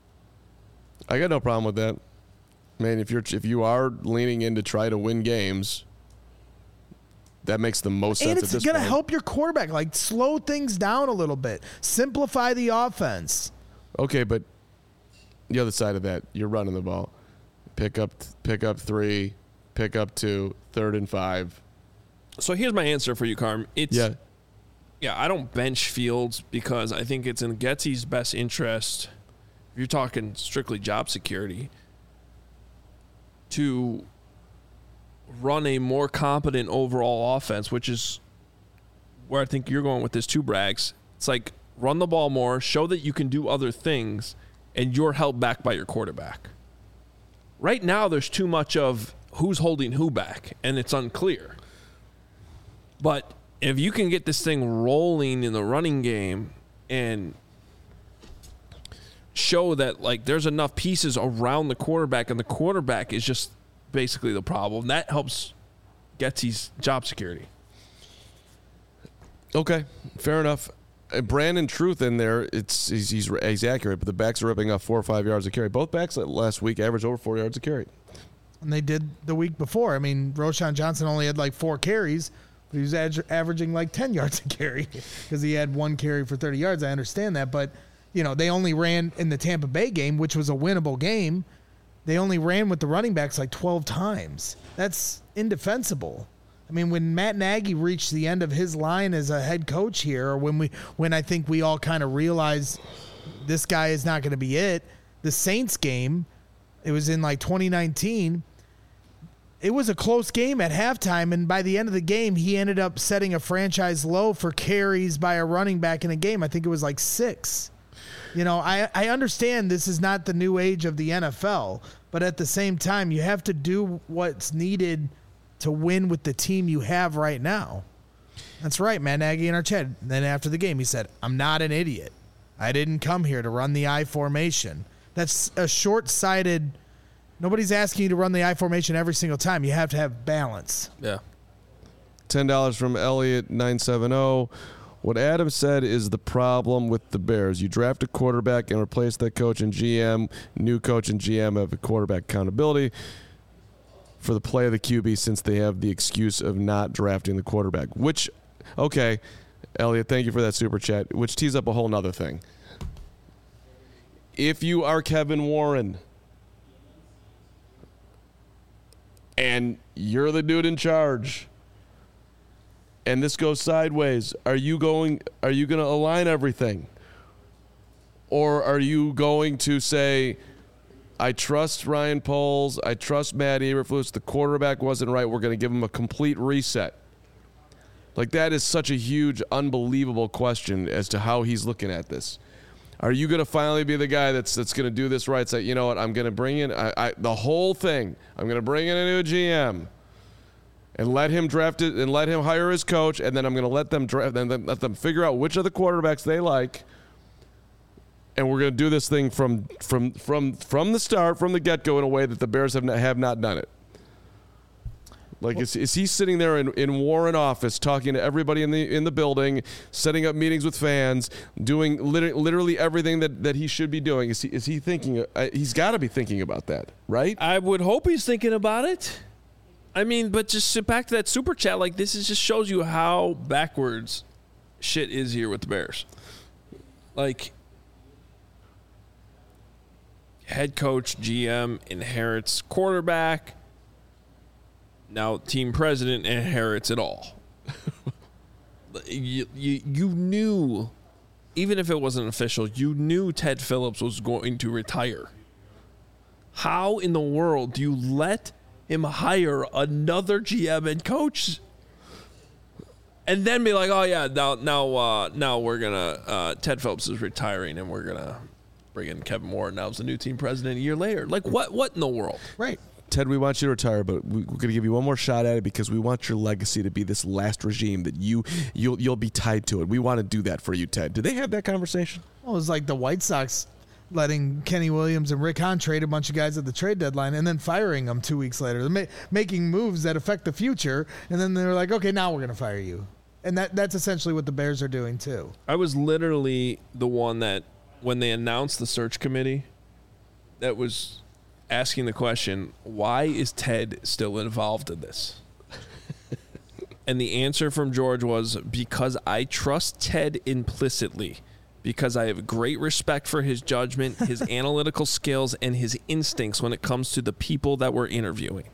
I got no problem with that. Man, if you're if you are leaning in to try to win games, that makes the most sense And at it's this going to point. help your quarterback. Like, slow things down a little bit. Simplify the offense. Okay, but the other side of that, you're running the ball. Pick up, pick up three, pick up two, third and five. So here's my answer for you, Carm. It's Yeah. yeah, I don't bench Fields because I think it's in Getsy's best interest, if you're talking strictly job security, to run a more competent overall offense, which is where I think you're going with this too, Braggs. It's like run the ball more, show that you can do other things, and you're held back by your quarterback. Right now, there's too much of who's holding who back, and it's unclear. But if you can get this thing rolling in the running game and show that like there's enough pieces around the quarterback and the quarterback is just basically the problem, that helps Getsy's job security. Okay, fair enough. Uh, Brandon Truth in there, it's he's, he's he's accurate, but the backs are ripping off four or five yards a carry. Both backs last week averaged over four yards a carry. And they did the week before. I mean, Roshan Johnson only had like four carries, but he was ad- averaging like ten yards a carry because he had one carry for thirty yards. I understand that, but you know, they only ran in the Tampa Bay game, which was a winnable game. They only ran with the running backs like twelve times. That's indefensible. I mean, when Matt Nagy reached the end of his line as a head coach here, or when we, when I think we all kind of realized this guy is not going to be it, the Saints game, it was in like twenty nineteen. It was a close game at halftime, and by the end of the game, he ended up setting a franchise low for carries by a running back in a game. I think it was like six. You know, I, I understand this is not the new age of the N F L, but at the same time, you have to do what's needed to win with the team you have right now. That's right, Matt Nagy in our chat. Then after the game, he said, I'm not an idiot. I didn't come here to run the I formation. That's a short-sighted. Nobody's asking you to run the I formation every single time. You have to have balance. Yeah. ten dollars from Elliot nine seven zero. What Adam said is the problem with the Bears. You draft a quarterback and replace that coach and G M. New coach and G M have a quarterback accountability for the play of the Q B since they have the excuse of not drafting the quarterback. Which, okay, Elliot, thank you for that super chat, which tees up a whole nother thing. If you are Kevin Warren and you're the dude in charge, and this goes sideways, are you going are you going to align everything? Or are you going to say, I trust Ryan Poles, I trust Matt Eberflus, the quarterback wasn't right, we're going to give him a complete reset? Like, that is such a huge, unbelievable question as to how he's looking at this. Are you going to finally be the guy that's that's going to do this right? Say, you know what, I'm going to bring in I, I, the whole thing. I'm going to bring in a new G M and let him draft it and let him hire his coach, and then I'm going to let them draft and then let them figure out which of the quarterbacks they like, and we're going to do this thing from from from from the start, from the get-go, in a way that the Bears have not, have not done it. Like, is, is he sitting there in, in Warren office talking to everybody in the in the building, setting up meetings with fans, doing liter- literally everything that, that he should be doing? Is he is he thinking? Uh, he's got to be thinking about that, right? I would hope he's thinking about it. I mean, but just sit back to that super chat. Like, this is just shows you how backwards shit is here with the Bears. Like, head coach, G M inherits quarterback. Now, team president inherits it all. you, you you knew, even if it wasn't official, you knew Ted Phillips was going to retire. How in the world do you let him hire another G M and coach, and then be like, "Oh yeah, now now uh, now we're gonna uh, Ted Phillips is retiring, and we're gonna bring in Kevin Warren. Now's the new team president a year later." Like, what what in the world? Right. Ted, we want you to retire, but we, we're going to give you one more shot at it because we want your legacy to be this last regime that you you'll you'll be tied to it. We want to do that for you, Ted. Did they have that conversation? Well, it was like the White Sox letting Kenny Williams and Rick Hahn trade a bunch of guys at the trade deadline and then firing them two weeks later. They're ma- making moves that affect the future, and then they're like, okay, now we're going to fire you. And that that's essentially what the Bears are doing too. I was literally the one that, when they announced the search committee, that was asking the question, why is Ted still involved in this? And the answer from George was, because I trust Ted implicitly, because I have great respect for his judgment, his analytical skills, and his instincts when it comes to the people that we're interviewing.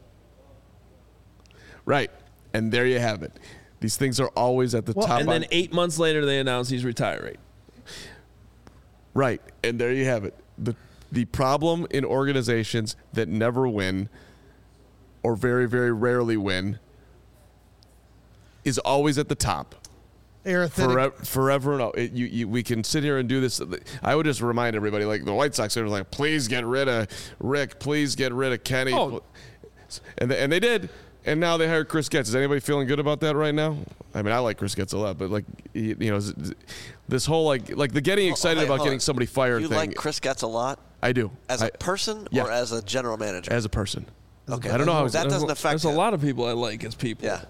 Right. And there you have it. These things are always at the well, top. And then eight months later, they announce he's retiring. Right. And there you have it. The The problem in organizations that never win or very, very rarely win is always at the top. Forever, forever no. It, you, you, we can sit here and do this. I would just remind everybody, like the White Sox, they were like, please get rid of Rick. Please get rid of Kenny. Oh. And, they, and they did. And now they hired Chris Getz. Is anybody feeling good about that right now? I mean, I like Chris Getz a lot, but like, you know, this whole like, like the getting excited wait, about getting on. somebody fired you thing. You like Chris Getz a lot? I do. As a I, person yeah. or as a general manager? As a person. Okay. I don't know how that doesn't affect There's him. a lot of people I like as people. Yeah. Right.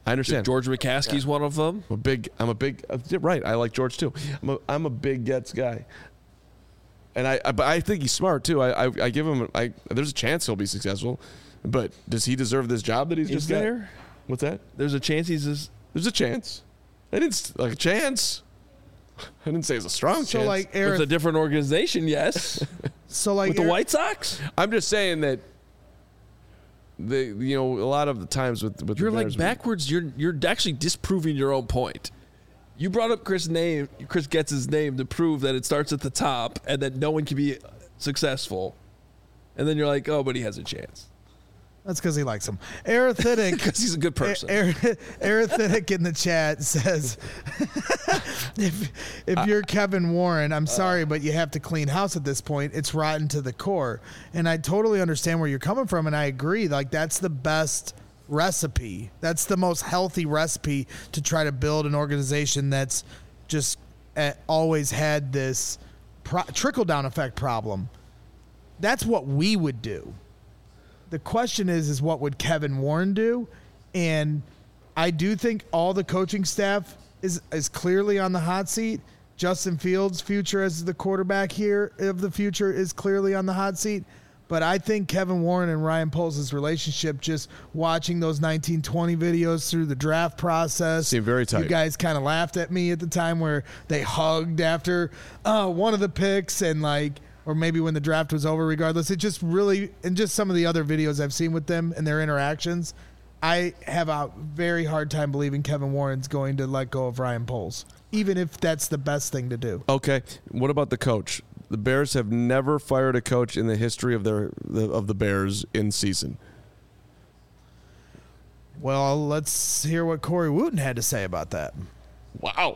I understand. George McCaskey's yeah. one of them. I'm a big. I'm a big. Uh, right. I like George too. I'm a. I'm a big Getz guy. And I. I but I think he's smart too. I. I, I give him. I. There's a chance he'll be successful, but does he deserve this job that he's Is just there? got? What's that? There's a chance he's. Just, there's a chance. I didn't like a chance. I didn't say it's a strong so chance. Like Eric, with a different organization, yes. so like with Eric, the White Sox. I'm just saying that. The you know a lot of the times with with you're the like backwards. You're you're actually disproving your own point. You brought up Chris name. Chris Getz's name to prove that it starts at the top and that no one can be successful. And then you're like, oh, but he has a chance. That's because he likes him. Arithmetic. Because he's a good person. Arithmetic in the chat says, if, if you're Kevin Warren, I'm sorry, but you have to clean house at this point. It's rotten to the core. And I totally understand where you're coming from, and I agree. Like, that's the best recipe. That's the most healthy recipe to try to build an organization that's just uh, always had this pro- trickle-down effect problem. That's what we would do. The question is, is what would Kevin Warren do? And I do think all the coaching staff is, is clearly on the hot seat. Justin Fields' future as the quarterback here of the future is clearly on the hot seat. But I think Kevin Warren and Ryan Poles' relationship, just watching those nineteen twenty videos through the draft process. Seemed very tight. You guys kind of laughed at me at the time where they hugged after uh, one of the picks and like, or maybe when the draft was over, regardless. It just really, and just some of the other videos I've seen with them and their interactions, I have a very hard time believing Kevin Warren's going to let go of Ryan Poles, even if that's the best thing to do. Okay. What about the coach? The Bears have never fired a coach in the history of their of the Bears in season. Well, let's hear what Corey Wooten had to say about that. Wow.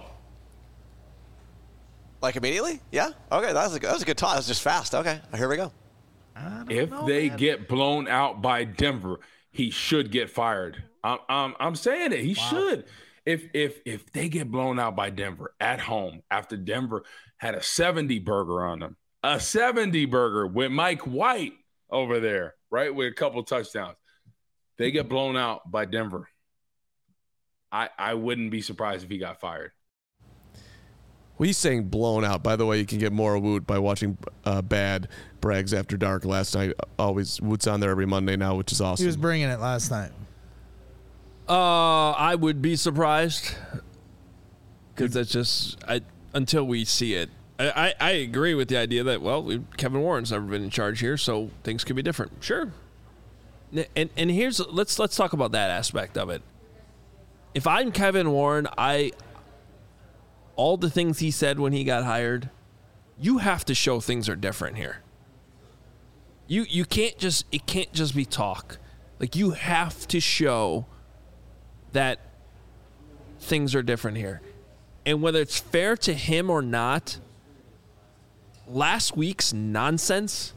Like immediately? Yeah. Okay, that was a, that was a good talk. That was just fast. Okay, here we go. If know, they man. get blown out by Denver, he should get fired. I'm I'm, I'm saying it. He wow. should. If if if they get blown out by Denver at home after Denver had a seventy burger on them, a seventy burger with Mike White over there, right, with a couple touchdowns, they get blown out by Denver. I I wouldn't be surprised if he got fired. Well, he's saying blown out. By the way, you can get more Woot by watching uh, Bad Brags After Dark last night. Always Woot's on there every Monday now, which is awesome. He was bringing it last night. Uh, I would be surprised because that's just I, until we see it. I, I, I agree with the idea that well, we, Kevin Warren's never been in charge here, so things could be different. Sure. And and here's let's let's talk about that aspect of it. If I'm Kevin Warren, I. all the things he said when he got hired, you have to show things are different here. You you can't just it can't just be talk. Like you have to show that things are different here. And whether it's fair to him or not, last week's nonsense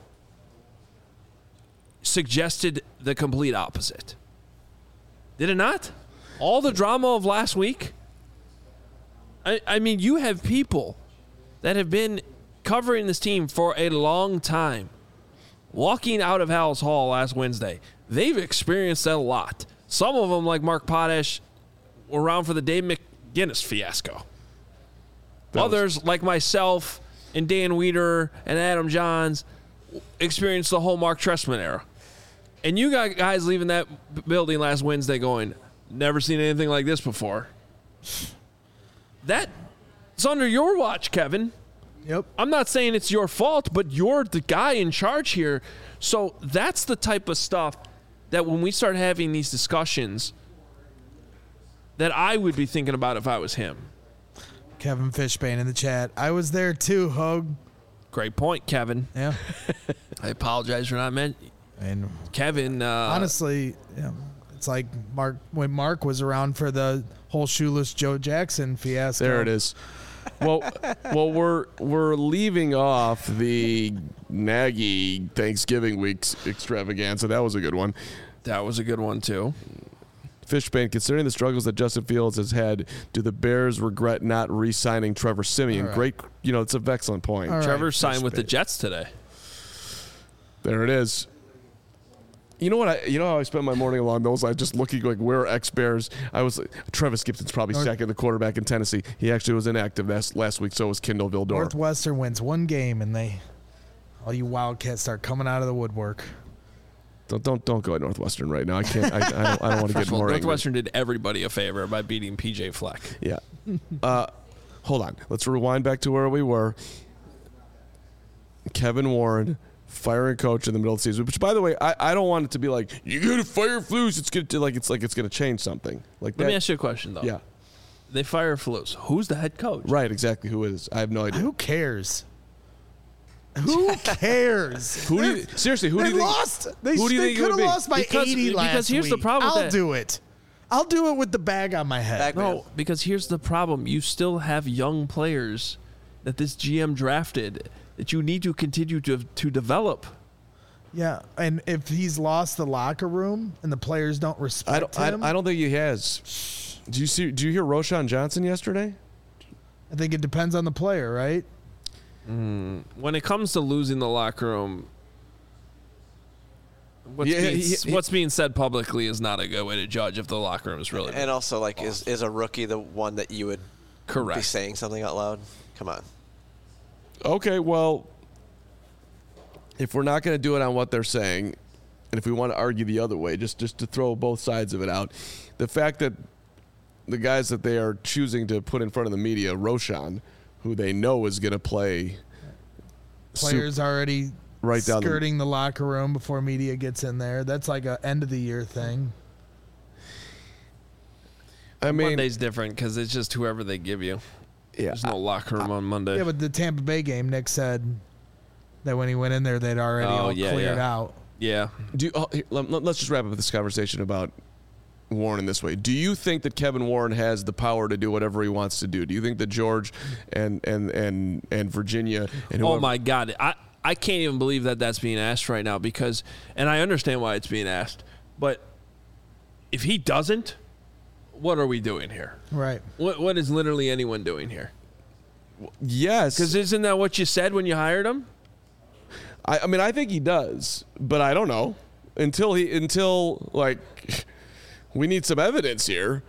suggested the complete opposite. Did it not? All the drama of last week. I, I mean, you have people that have been covering this team for a long time, walking out of Hal's Hall last Wednesday. They've experienced that a lot. Some of them, like Mark Potash, were around for the Dave McGinnis fiasco. That Others, was- like myself and Dan Weeder and Adam Johns, experienced the whole Mark Trestman era. And you got guys leaving that building last Wednesday going, never seen anything like this before. That's under your watch, Kevin. Yep. I'm not saying it's your fault, but you're the guy in charge here. So that's the type of stuff that when we start having these discussions that I would be thinking about if I was him. Kevin Fishbane in the chat. I was there too, Hug. Great point, Kevin. Yeah. I apologize for not meant. And Kevin. Uh, honestly, yeah, it's like Mark when Mark was around for the whole shoeless Joe Jackson fiasco. There it is. Well, well, we're we're leaving off the Nagy Thanksgiving week's extravaganza. That was a good one. That was a good one too. Fishbane, considering the struggles that Justin Fields has had, do the Bears regret not re-signing Trevor Siemian? Right. Great, you know, it's an excellent point. All Trevor right, signed with the Fishbane. Jets today. There it is. You know what? I you know how I spent my morning along those lines, just looking like where ex Bears. I was like, Travis Gibson's probably North, second, the quarterback in Tennessee. He actually was inactive last last week. So was Kendall Vildor. Northwestern wins one game, and they all you Wildcats start coming out of the woodwork. Don't don't don't go at Northwestern right now. I can't. I, I don't. I don't want to get more. Northwestern angry. did everybody a favor by beating P J Fleck. Yeah. Uh, hold on. Let's rewind back to where we were. Kevin Warren firing coach in the middle of the season, which, by the way, I, I don't want it to be like you got to fire Flus. It's gonna like it's like it's gonna change something. Like Let that. me ask you a question though. Yeah. They fire Flus. Who's the head coach? Right. Exactly. Who is? I have no idea. Who cares? Who cares? Who do you, seriously? Who they do you think? lost. They, who do you they think it could would have be? lost by Because- eighty last because here's the week. problem with I'll that. do it. I'll do it with the bag on my head. Bag man. No, because here's the problem. You still have young players that this G M drafted that you need to continue to to develop. Yeah, and if he's lost the locker room and the players don't respect I don't. I, him, I don't think he has. Do you see? Do you hear Roshan Johnson yesterday? I think it depends on the player, right? When it comes to losing the locker room, what's, Yeah, being, he- he- what's being said publicly is not a good way to judge if the locker room is really And also, like, is, is a rookie the one that you would be correct. saying something out loud? Come on. Okay, well, if we're not going to do it on what they're saying, and if we want to argue the other way, just just to throw both sides of it out, the fact that the guys that they are choosing to put in front of the media, Roshan, who they know is going to play, Players already right down the- skirting the locker room before media gets in there. That's like a end of the year thing. I mean, Monday's different because it's just whoever they give you. yeah, There's no locker room on Monday. Yeah, but the Tampa Bay game, Nick said that when he went in there, they'd already Oh, all yeah, cleared yeah. out. yeah. Do you, oh, here, let, let's just wrap up this conversation about Warren in this way. Do you think that Kevin Warren has the power to do whatever he wants to do? Do you think that George and and and and Virginia and whoever, Oh my God, I I can't even believe that that's being asked right now because, and I understand why it's being asked, but if he doesn't, what are we doing here? Right. What what is literally anyone doing here? yes, Because isn't that what you said when you hired him? I, I mean, I think he does, but I don't know until he until like we need some evidence here.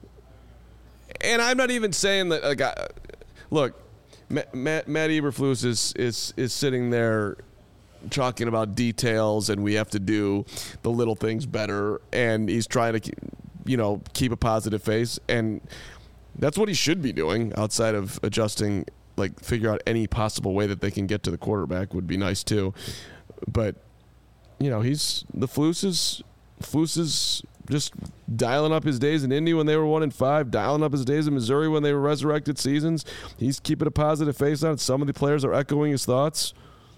And I'm not even saying that. Like, I, look, Matt, Matt, Matt Eberflus is is is sitting there talking about details, and we have to do the little things better, and he's trying to, keep, you know, keep a positive face, and that's what he should be doing outside of adjusting. Like, figure out any possible way that they can get to the quarterback would be nice too. But, you know, he's the Flus is Flus is just dialing up his days in Indy when they were one and five, dialing up his days in Missouri when they were resurrected seasons. He's keeping a positive face on it. Some of the players are echoing his thoughts.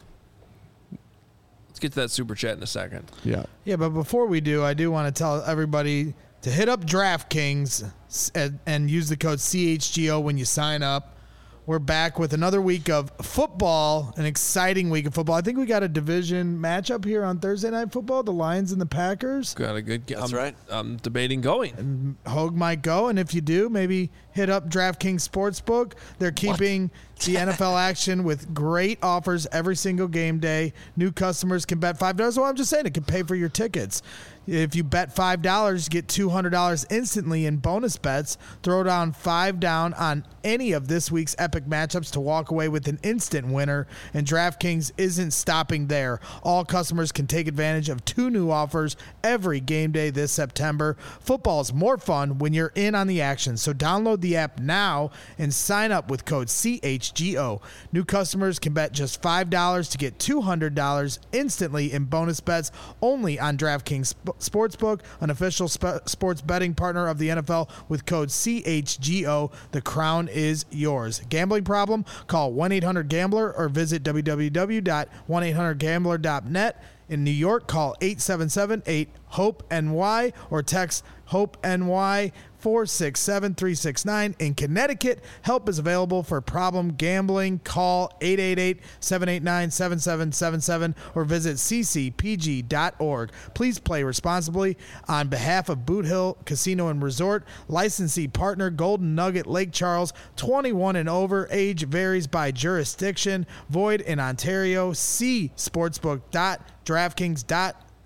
Let's get to that super chat in a second. Yeah. Yeah, but before we do, I do want to tell everybody to hit up DraftKings and, and use the code C H G O when you sign up. We're back with another week of football, an exciting week of football. I think we got a division matchup here on Thursday Night Football, the Lions and the Packers. Got a good. That's I'm, right. I'm debating going. Hogue might go, and if you do, maybe hit up DraftKings Sportsbook. They're keeping the N F L action with great offers every single game day. New customers can bet five dollars. Well, I'm just saying it can pay for your tickets. If you bet five dollars, you get two hundred dollars instantly in bonus bets. Throw down five down on any of this week's epic matchups to walk away with an instant winner. And DraftKings isn't stopping there. All customers can take advantage of two new offers every game day this September. Football is more fun when you're in on the action. So download the app now and sign up with code C H G O. New customers can bet just five dollars to get two hundred dollars instantly in bonus bets only on DraftKings Sportsbook, an official sp- sports betting partner of the N F L with code C H G O. The crown is yours. Gambling problem? Call one eight hundred gambler or visit w w w dot one eight hundred gambler dot net. In New York, call eight seven seven eight HOPE N Y or text HOPE-N-Y four six seven three six nine. In Connecticut, help is available for problem gambling. Call eight eight eight seven eight nine seven seven seven seven or visit c c p g dot org. Please play responsibly. On behalf of Boot Hill Casino and Resort, licensee partner Golden Nugget Lake Charles, twenty-one and over. Age varies by jurisdiction. Void in Ontario. See sportsbook dot draftkings dot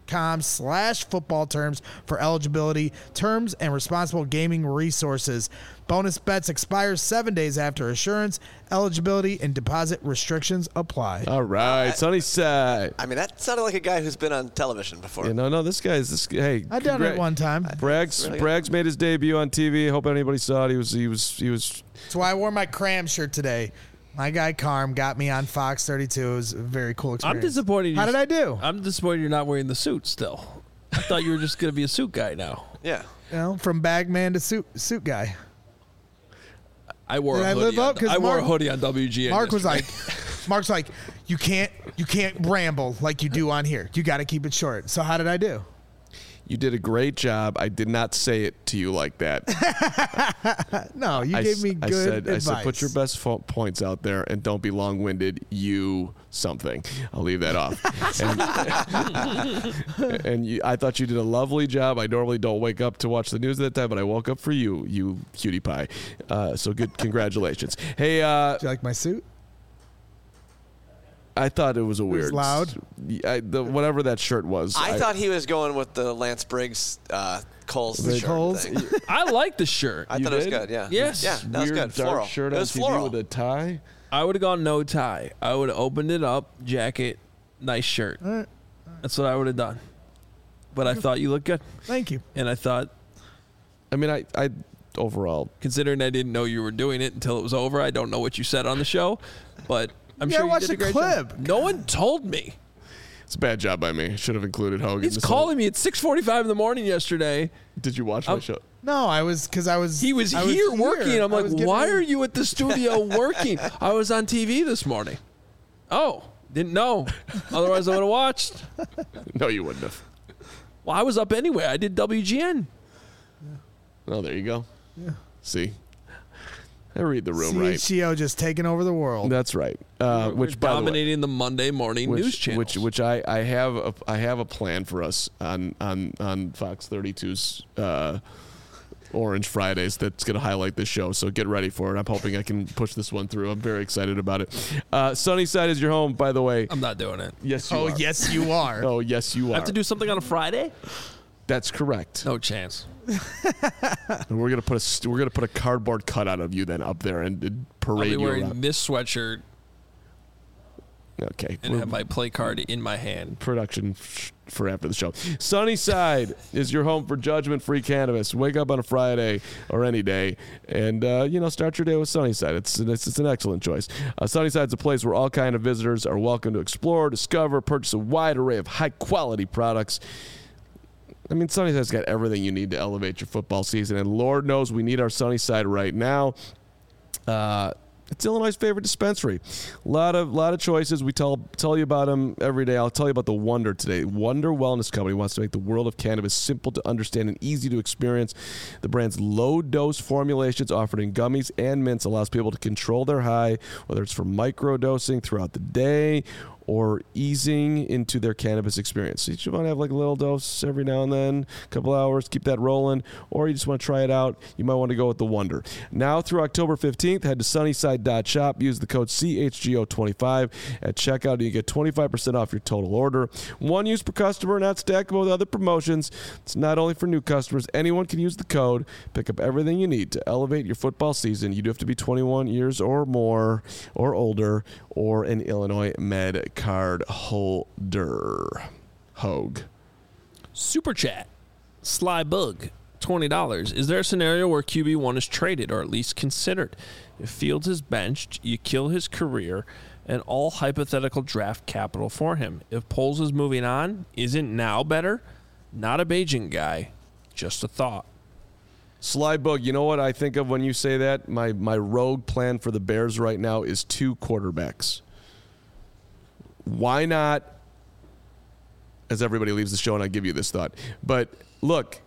com slash football terms for eligibility, terms, and responsible gaming resources. Bonus bets expire seven days after assurance. Eligibility and deposit restrictions apply. All right, Sunnyside. I mean, that sounded like a guy who's been on television before. Yeah, no, no, this guy's this. Hey, I done it one time. Braggs, really Braggs made his debut on T V. Hope anybody saw it. He was, he was, he was. That's why I wore my Cram shirt today. My guy Carm got me on Fox thirty-two. It was a very cool experience. I'm disappointed. How you- did I do? I'm disappointed you're not wearing the suit still. I thought you were just going to be a suit guy now. Yeah. You know, from bagman to suit suit guy. I wore Did a I hoodie. live up? on, 'Cause I wore a Mark- hoodie on W G N. Mark was yesterday. like, Mark's like, you can't, you can't ramble like you do on here. You got to keep it short. So how did I do? You did a great job. I did not say it to you like that. No, you I gave s- me I good said, advice. I said, put your best fo- points out there and don't be long-winded. You something. I'll leave that off. and and you, I thought you did a lovely job. I normally don't wake up to watch the news at that time, but I woke up for you, you cutie pie. Uh, so good. Congratulations. Hey, uh, Do you like my suit? I thought it was a was weird. loud? I, the, whatever that shirt was. I, thought he was going with the Lance Briggs uh, Coles The shirt Coles? thing. I like the shirt. I You thought it was did? good, yeah. Yes. Yeah, that was weird good. dark Floral. shirt it on was T V floral. with a tie. I would have gone no tie. I would have opened it up, jacket, nice shirt. All right. That's what I would have done. But I thought you looked good. Thank you. And I thought, I mean, I, I overall. considering I didn't know you were doing it until it was over, I don't know what you said on the show, but I'm You sure gotta you watch did a the great clip. job. No one told me. It's a bad job by me. Should have included Hogan. He's This calling me at six forty-five in the morning yesterday. whole- Did you watch my I'm- show? No, I was because I was. He was I here working. I'm I like, was getting why ready- are you at the studio working? I was on T V this morning. Oh, didn't know. Otherwise, I would have watched. No, you wouldn't have. Well, I was up anyway. I did W G N. Oh, there you go. Yeah. See, I read the room right. C H G O just taking over the world. That's right. Uh, We're which by the way, dominating the, Monday morning which, news channels. which which I, I have a, I have a plan for us on on on Fox thirty-two's uh, Orange Fridays that's going to highlight this show. So get ready for it. I'm hoping I can push this one through. I'm very excited about it. Uh, Sunnyside is your home, by the way. I'm not doing it. Yes, you Oh are. yes, you are. Oh yes, you are. I have to do something on a Friday? That's correct. No chance. And we're gonna put a st- we're gonna put a cardboard cutout of you then up there and, and I'll parade be you wearing around. this sweatshirt Okay. and We're- have my play card in my hand. production f- for after the show. Sunnyside is your home for judgment-free cannabis. Wake up on a Friday or any day, and uh, you know start your day with Sunnyside. It's it's, it's an excellent choice. Uh, Sunnyside's a place where all kind of visitors are welcome to explore, discover, purchase a wide array of high-quality products. I mean, Sunnyside's got everything you need to elevate your football season, and Lord knows we need our Sunnyside right now. Uh, It's Illinois' favorite dispensary. A lot of lot of choices. We tell tell you about them every day. I'll tell you about the Wonder today. Wonder Wellness Company wants to make the world of cannabis simple to understand and easy to experience. The brand's low-dose formulations offered in gummies and mints allows people to control their high, whether it's for micro-dosing throughout the day or easing into their cannabis experience. So you just want to have like a little dose every now and then, a couple hours, keep that rolling, or you just want to try it out, you might want to go with the Wonder. Now through October fifteenth, head to sunnyside dot shop, use the code C H G O twenty-five at checkout, and you get twenty-five percent off your total order. One use per customer, not stackable with other promotions. It's not only for new customers. Anyone can use the code, pick up everything you need to elevate your football season. You do have to be twenty-one years or more or older, or an Illinois Med card holder. Hogue. Super chat. Sly Bug. twenty dollars. Is there a scenario where Q B one is traded or at least considered? If Fields is benched, you kill his career and all hypothetical draft capital for him. If Poles is moving on, isn't now better? Not a Bajan guy. Just a thought. Sly Bug, you know what I think of when you say that? My my rogue plan for the Bears right now is two quarterbacks. Why not, as everybody leaves the show and I give you this thought, but look,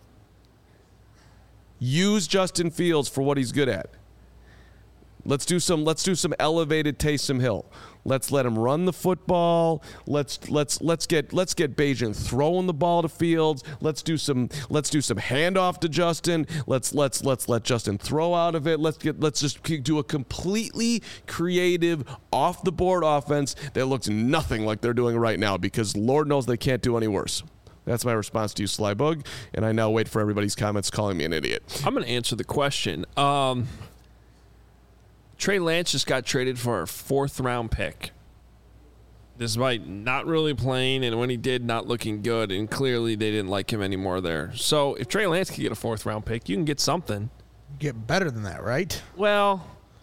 use Justin Fields for what he's good at. Let's do some let's do some elevated Taysom Hill. Let's let him run the football. Let's let's let's get let's get Bajan throwing the ball to Fields. Let's do some let's do some handoff to Justin. Let's let's let's let Justin throw out of it. Let's get let's just do a completely creative off the board offense that looks nothing like they're doing right now, because Lord knows they can't do any worse. That's my response to you, Slybug, and I now wait for everybody's comments calling me an idiot. I'm going to answer the question. Um, Trey Lance just got traded for a fourth-round pick, despite not really playing, and when he did, not looking good, and clearly they didn't like him anymore there. So if Trey Lance can get a fourth-round pick, you can get something. Get better than that, right? Well,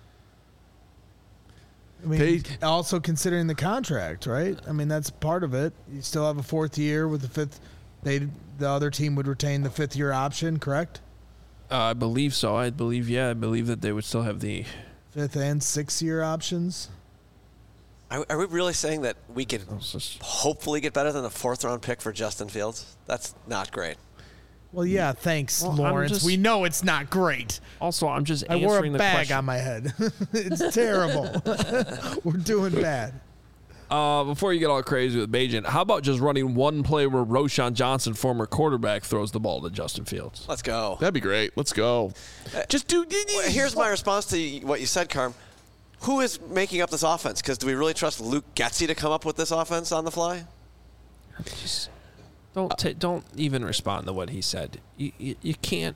I mean, They- also considering the contract, right? I mean, that's part of it. You still have a fourth year with the fifth. They the other team would retain the fifth year option, correct? uh, I believe so. I believe, yeah, I believe that they would still have the Fifth and sixth year options. Are, are we really saying that we could just- hopefully get better than the fourth round pick for Justin Fields? That's not great. Well, yeah, thanks, Well, I'm Lawrence. just- we know it's not great. Also, I'm just I answering wore a the bag question. on my head. It's terrible. We're doing bad. Uh, before you get all crazy with Bajan, how about just running one play where Roshan Johnson, former quarterback, throws the ball to Justin Fields? Let's go. That'd be great. Let's go. Just do. Well, here's my response to what you said, Carm. Who is making up this offense? Because do we really trust Luke Getsy to come up with this offense on the fly? Just don't ta don't even respond to what he said. You, you, you can't.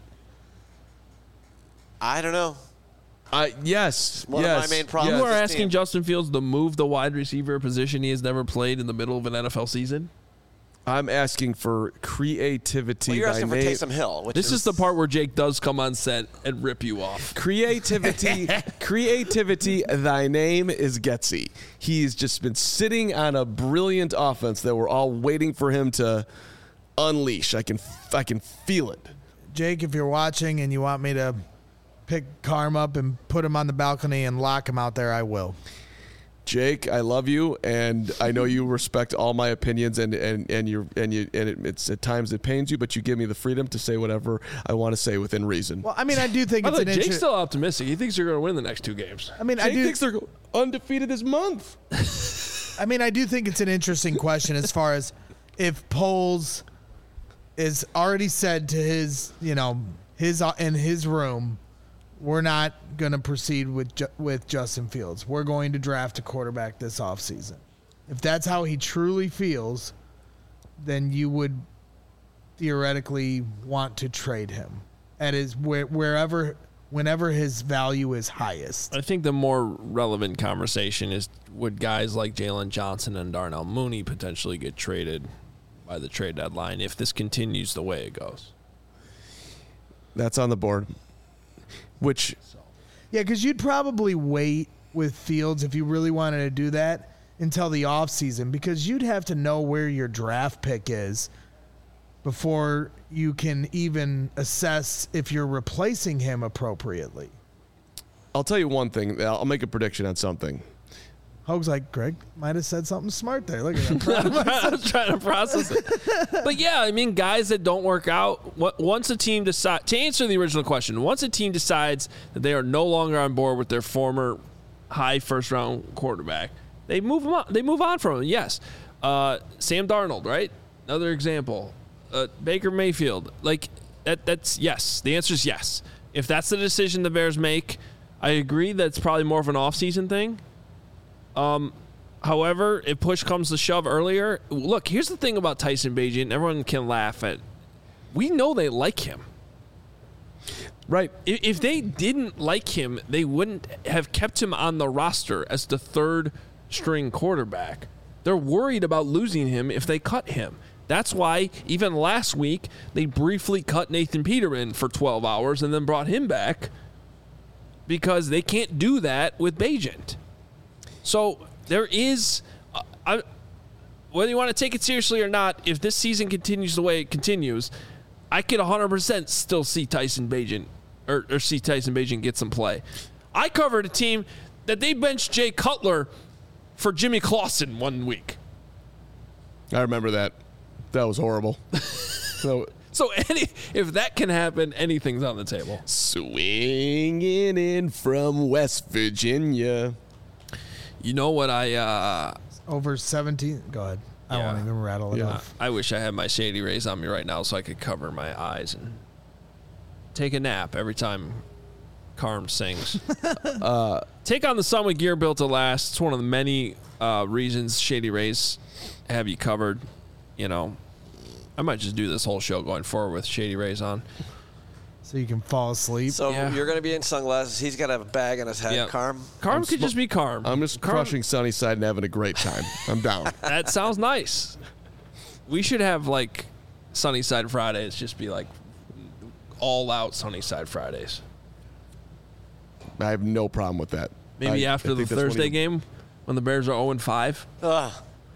I don't know. Uh, yes. One of yes, my main problems yes. You are this asking team. Justin Fields to move the wide receiver position he has never played in the middle of an N F L season? I'm asking for creativity. Well, you're by asking for name. Taysom Hill. Which This is, is the part where Jake does come on set and rip you off. Creativity, creativity. Thy name is Getsy. He's just been sitting on a brilliant offense that we're all waiting for him to unleash. I can, I can feel it. Jake, if you're watching and you want me to pick Carm up and put him on the balcony and lock him out there, I will. Jake, I love you, and I know you respect all my opinions, and and and you and you and it, it's at times it pains you, but you give me the freedom to say whatever I want to say within reason. Well, I mean, I do think By it's the an way, Jake's interest. still optimistic. He thinks you're going to win the next two games. I mean, I Jake do. thinks they're undefeated this month. I mean, I do think it's an interesting question as far as if Poles is already said to his, you know, his uh, in his room, we're not going to proceed with Ju- with Justin Fields. We're going to draft a quarterback this offseason. If that's how he truly feels, then you would theoretically want to trade him at his where, wherever whenever his value is highest. I think the more relevant conversation is would guys like Jalen Johnson and Darnell Mooney potentially get traded by the trade deadline if this continues the way it goes? That's on the board. Which Yeah, because you'd probably wait with Fields if you really wanted to do that until the offseason, because you'd have to know where your draft pick is before you can even assess if you're replacing him appropriately. I'll tell you one thing. I'll make a prediction on something. Hoag's like, Greg might have said something smart there. Look at that. I was trying to process it. But yeah, I mean, guys that don't work out, what- once a team decides, to answer the original question, once a team decides that they are no longer on board with their former high first round quarterback, they move them on. They move on from him. Yes. Uh, Sam Darnold, right? Another example. Uh, Baker Mayfield. Like, that, that's yes. The answer is yes. If that's the decision the Bears make, I agree that's probably more of an offseason thing. Um, however, if push comes to shove earlier, look, here's the thing about Tyson Bagent. Everyone can laugh at. We know they like him. Right. If, if they didn't like him, they wouldn't have kept him on the roster as the third string quarterback. They're worried about losing him if they cut him. That's why even last week they briefly cut Nathan Peterman for twelve hours and then brought him back because they can't do that with Bagent. So there is, uh, I, whether you want to take it seriously or not, if this season continues the way it continues, I could one hundred percent still see Tyson Bagent or, or see Tyson Bagent get some play. I covered a team that they benched Jay Cutler for Jimmy Clausen one week. I remember that. That was horrible. So So any if that can happen, anything's on the table. swinging in from West Virginia. You know what I uh, Over seventeen. Go ahead. I Yeah. won't even rattle it Yeah. off. I wish I had my Shady Rays on me right now so I could cover my eyes and take a nap every time Carm sings. uh, take on the sun with gear built to last. It's one of the many uh, reasons Shady Rays have you covered. You know, I might just do this whole show going forward with Shady Rays on. So you can fall asleep. So Yeah. you're going to be in sunglasses. He's got to have a bag on his head. Yeah. Carm? Carm could just be Carm. I'm just Carm- crushing Sunnyside and having a great time. I'm down. That sounds nice. We should have like Sunnyside Fridays. Just be like all out Sunnyside Fridays. I have no problem with that. Maybe I- after I the think that's one Thursday of- game when the Bears are oh and five. Ugh.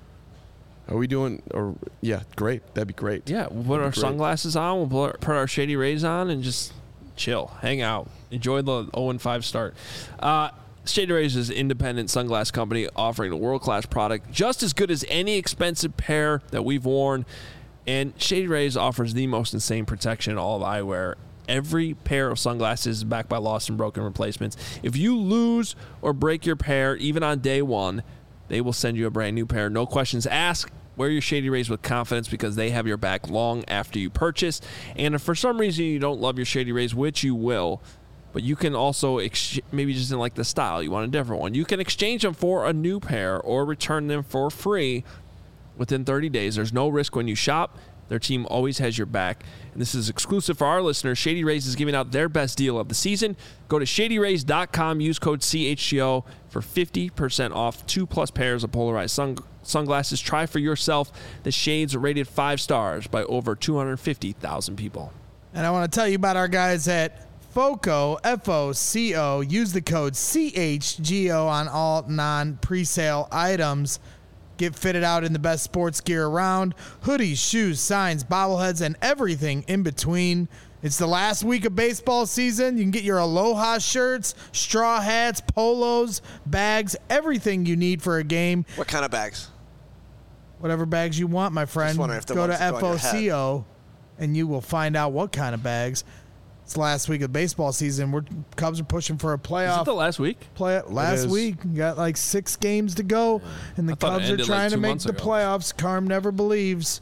Are we doing? Or yeah, great. That'd be great. Yeah, we'll put our Great. sunglasses on. We'll put our, put our Shady Rays on and just chill, hang out, enjoy the oh and five start. Uh, Shady Rays is an independent sunglass company offering a world-class product just as good as any expensive pair that we've worn. And Shady Rays offers the most insane protection in all of eyewear. Every pair of sunglasses is backed by lost and broken replacements. If you lose or break your pair, even on day one, they will send you a brand new pair. No questions asked. Wear your Shady Rays with confidence because they have your back long after you purchase. And if for some reason you don't love your Shady Rays, which you will, but you can also, ex- maybe just didn't like the style, you want a different one, you can exchange them for a new pair or return them for free within thirty days. There's no risk when you shop. Their team always has your back. And this is exclusive for our listeners. Shady Rays is giving out their best deal of the season. Go to shady rays dot com, use code C H G O for fifty percent off two plus pairs of polarized sun- sunglasses. Try for yourself. The shades are rated five stars by over two hundred fifty thousand people. And I want to tell you about our guys at FOCO, F O C O. Use the code C H G O on all non-presale items. Get fitted out in the best sports gear around. Hoodies, shoes, signs, bobbleheads, and everything in between. It's the last week of baseball season. You can get your Aloha shirts, straw hats, polos, bags, everything you need for a game. What kind of bags? Whatever bags you want, my friend. wondering if the Go to ones that F go on O your head. C O and you will find out what kind of bags. It's the last week of baseball season. We're Cubs are pushing for a Is playoff. it the last week? Play last is. week. You got like six games to go, and the I thought it Cubs are ended, like, trying two to make months the ago. playoffs. Carm never believes.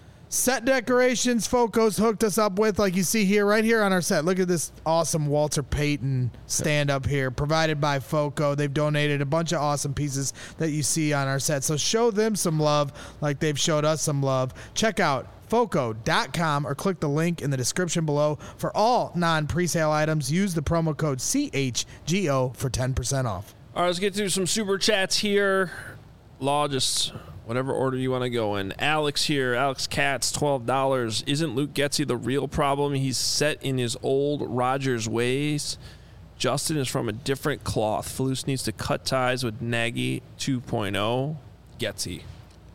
Set decorations, Foco's hooked us up with, like you see here, right here on our set. Look at this awesome Walter Payton stand up here, provided by Foco. They've donated a bunch of awesome pieces that you see on our set. So show them some love like they've showed us some love. Check out foco dot com or click the link in the description below for all non-presale items. Use the promo code C H G O for ten percent off. All right, let's get through some super chats here. Law, just whatever order you want to go in. Alex here, Alex Katz, twelve dollars. Isn't Luke Getsy the real problem? He's set in his old Rodgers ways. Justin is from a different cloth. Falus needs to cut ties with Nagy two point oh. Getsy.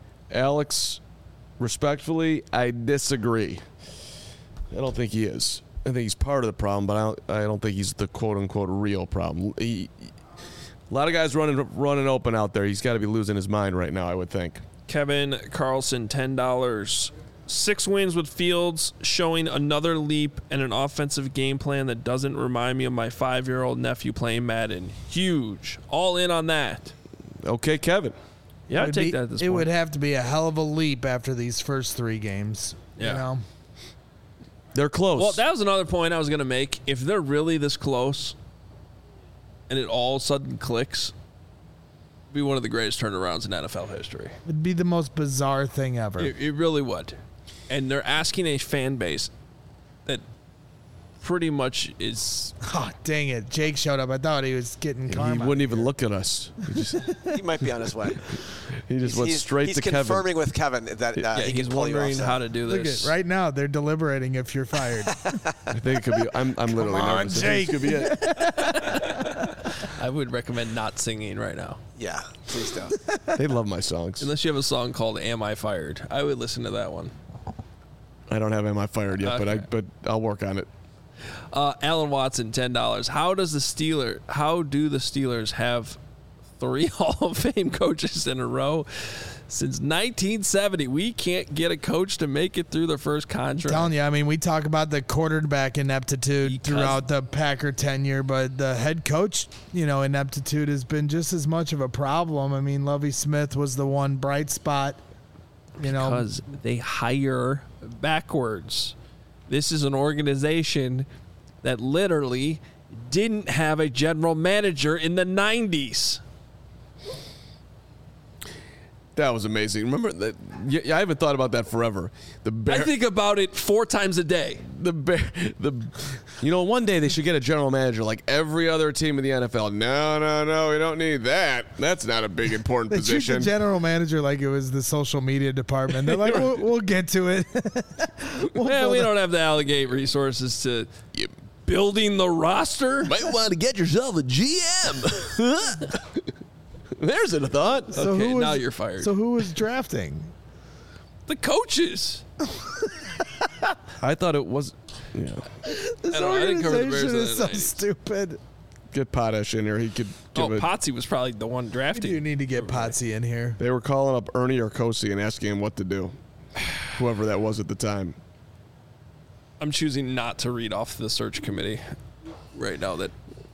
Alex, respectfully, I disagree. I don't think he is. I think he's part of the problem, but I don't, I don't think he's the quote-unquote real problem. He, a lot of guys running running open out there. He's got to be losing his mind right now, I would think. Kevin Carlson, ten dollars. Six wins with Fields, showing another leap and an offensive game plan that doesn't remind me of my five-year-old nephew playing Madden. Huge. All in on that. Okay, Kevin. Yeah, It I'd would take be- that at this It point. would have to be a hell of a leap after these first three games. Yeah. You know? They're close. Well, that was another point I was going to make. If they're really this close and it all of a sudden clicks, it'd be one of the greatest turnarounds in N F L history. It'd be the most bizarre thing ever. It, it really would. And they're asking a fan base that pretty much is... Oh, dang it. Jake showed up. I thought he was getting he karma. wouldn't even look at us. He just, He might be on his way. he just went he's, straight he's to Kevin. confirming with Kevin that uh, yeah, he he's can pull you wondering off how set. to do Look this. at right now. They're deliberating if you're fired. I think it could be. I'm, I'm literally on, nervous. I think Jake. This could be it. I would recommend not singing right now. Yeah, please don't. They love my songs. Unless you have a song called Am I Fired? I would listen to that one. I don't have Am I Fired yet, but I Okay. but I'll work on it. Uh, Alan Watson, ten dollars. How does the Steeler? How do the Steelers have three Hall of Fame coaches in a row since nineteen seventy? We can't get a coach to make it through the first contract. telling you, I mean, we talk about the quarterback ineptitude Because- throughout the Packer tenure, but the head coach, you know, ineptitude has been just as much of a problem. I mean, Lovie Smith was the one bright spot, you know. Because they hire backwards. This is an organization that literally didn't have a general manager in the nineties. That was amazing. Remember that? Yeah, I haven't thought about that forever. The Bear, I think about it four times a day. the Bear, the, you know, one day they should get a general manager like every other team in the N F L. No, no, no, we don't need that. That's not a big important They treat position. the general manager like it was the social media department. They're like, we'll, we'll get to it. we'll Man, we build don't have the allocate resources to building the roster. Might want to get yourself a G M. There's a thought. So Okay, who was- now you're fired. So who was drafting? The coaches. I thought it was. Yeah. This I don't know, I didn't cover the Bears organization in is the so nineties. stupid. Get Potash in here. He could give Oh, it. Potsy was probably the one We do drafting. need to get Potsy in here. They were calling up Ernie Arcosi and asking him what to do. Whoever that was at the time. I'm choosing not to read off the search committee right now. That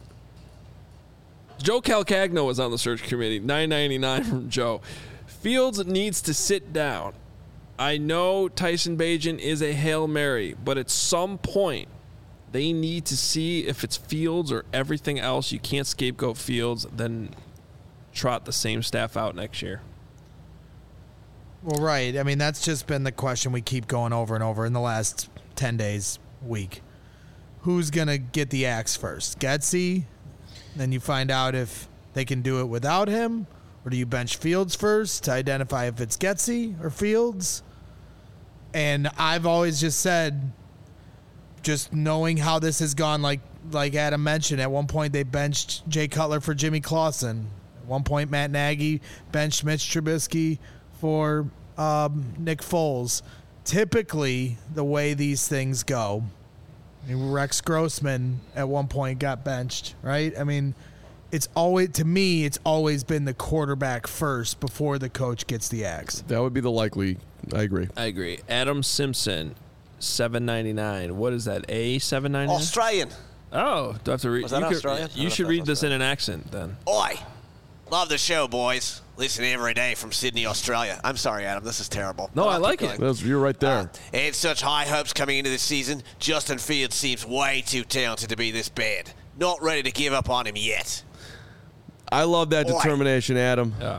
Joe Calcagno was on the search committee. nine ninety-nine from Joe. Fields needs to sit down. I know Tyson Bagent is a Hail Mary, but at some point they need to see if it's Fields or everything else. You can't scapegoat Fields, then trot the same staff out next year. Well, right. I mean, that's just been the question we keep going over and over in the last ten days, week. Who's going to get the axe first? Getsy? Then you find out if they can do it without him? Or do you bench Fields first to identify if it's Getsy or Fields? And I've always just said, just knowing how this has gone, like like Adam mentioned, at one point they benched Jay Cutler for Jimmy Clausen. At one point, Matt Nagy benched Mitch Trubisky for um, Nick Foles. Typically, the way these things go, I mean, Rex Grossman at one point got benched, right? I mean, it's always, to me, it's always been the quarterback first before the coach gets the axe. That would be the likely. I agree. I agree. Adam Simpson, seven ninety-nine. What is that? A seven ninety-nine? Australian. Oh, do I have to read? Was that you could- Australian? I You don't should know if read that this was in an accent then. Oi. Love the show, boys. Listen every day from Sydney, Australia. I'm sorry, Adam. This is terrible. No, But I I'll like keep it. going. That's, you're right there. Uh, and such high hopes coming into this season. Justin Fields seems way too talented to be this bad. Not ready to give up on him yet. I love that Oi. determination, Adam. Yeah.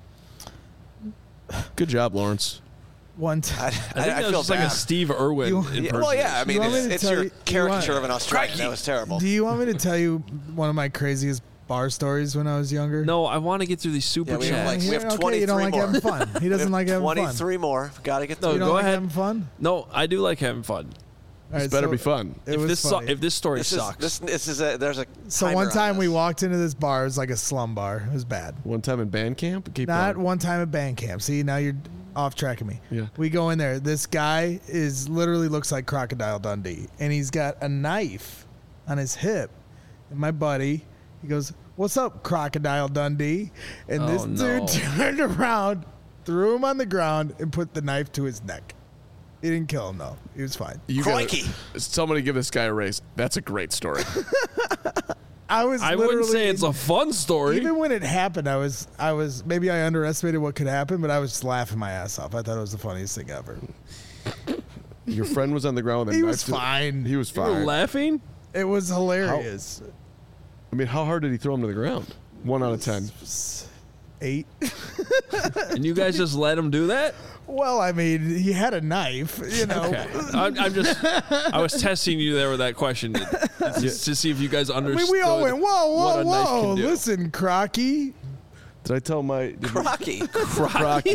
Good job, Lawrence. One time. I, I I, think I that was feel just like bad. a Steve Irwin You- impersonation. Yeah, well, yeah. I mean, You want me it's, to it's tell your you- you caricature want- of an Australian. That was terrible. Do you want me to tell you one of my craziest bar stories when I was younger? No, I want to get through these super Yeah, we have chats. like- we have okay, you don't twenty-three like more. having fun. He doesn't like having fun. twenty-three more. Got to get No, through. You don't go like ahead. having fun? No, I do like having fun. All right, This better so be fun. It If was this so, funny. if this story This is, sucks, this, this is a, there's a so timer one on time we this. walked into this bar. It was like a slum bar. It was bad. One time in band camp. Keep Not going. one time at band camp. See, now you're off track of me. Yeah. We go in there. This guy is literally looks like Crocodile Dundee, and he's got a knife on his hip. And my buddy, he goes, "What's up, Crocodile Dundee?" And this Oh, no. dude turned around, threw him on the ground, and put the knife to his neck. He didn't kill him though. He was fine. You gotta- Crikey. somebody give this guy a raise. That's a great story. I was. I wouldn't literally- say it's a fun story. Even when it happened, I was, I was maybe I underestimated what could happen, but I was just laughing my ass off. I thought it was the funniest thing ever. Your friend was on the ground with a He knife was to- fine. He was You were fine. laughing, It was hilarious. I mean, how hard did he throw him to the ground? One out of ten. Eight. and you guys just let him do that. Well, I mean, he had a knife, you know. Okay, I'm, I'm just. I was testing you there with that question to, just to see if you guys I understood. mean, we all went, whoa, what whoa, a knife whoa. can do. Listen, Crocky. Did I tell my? Did Crocky. Crocky.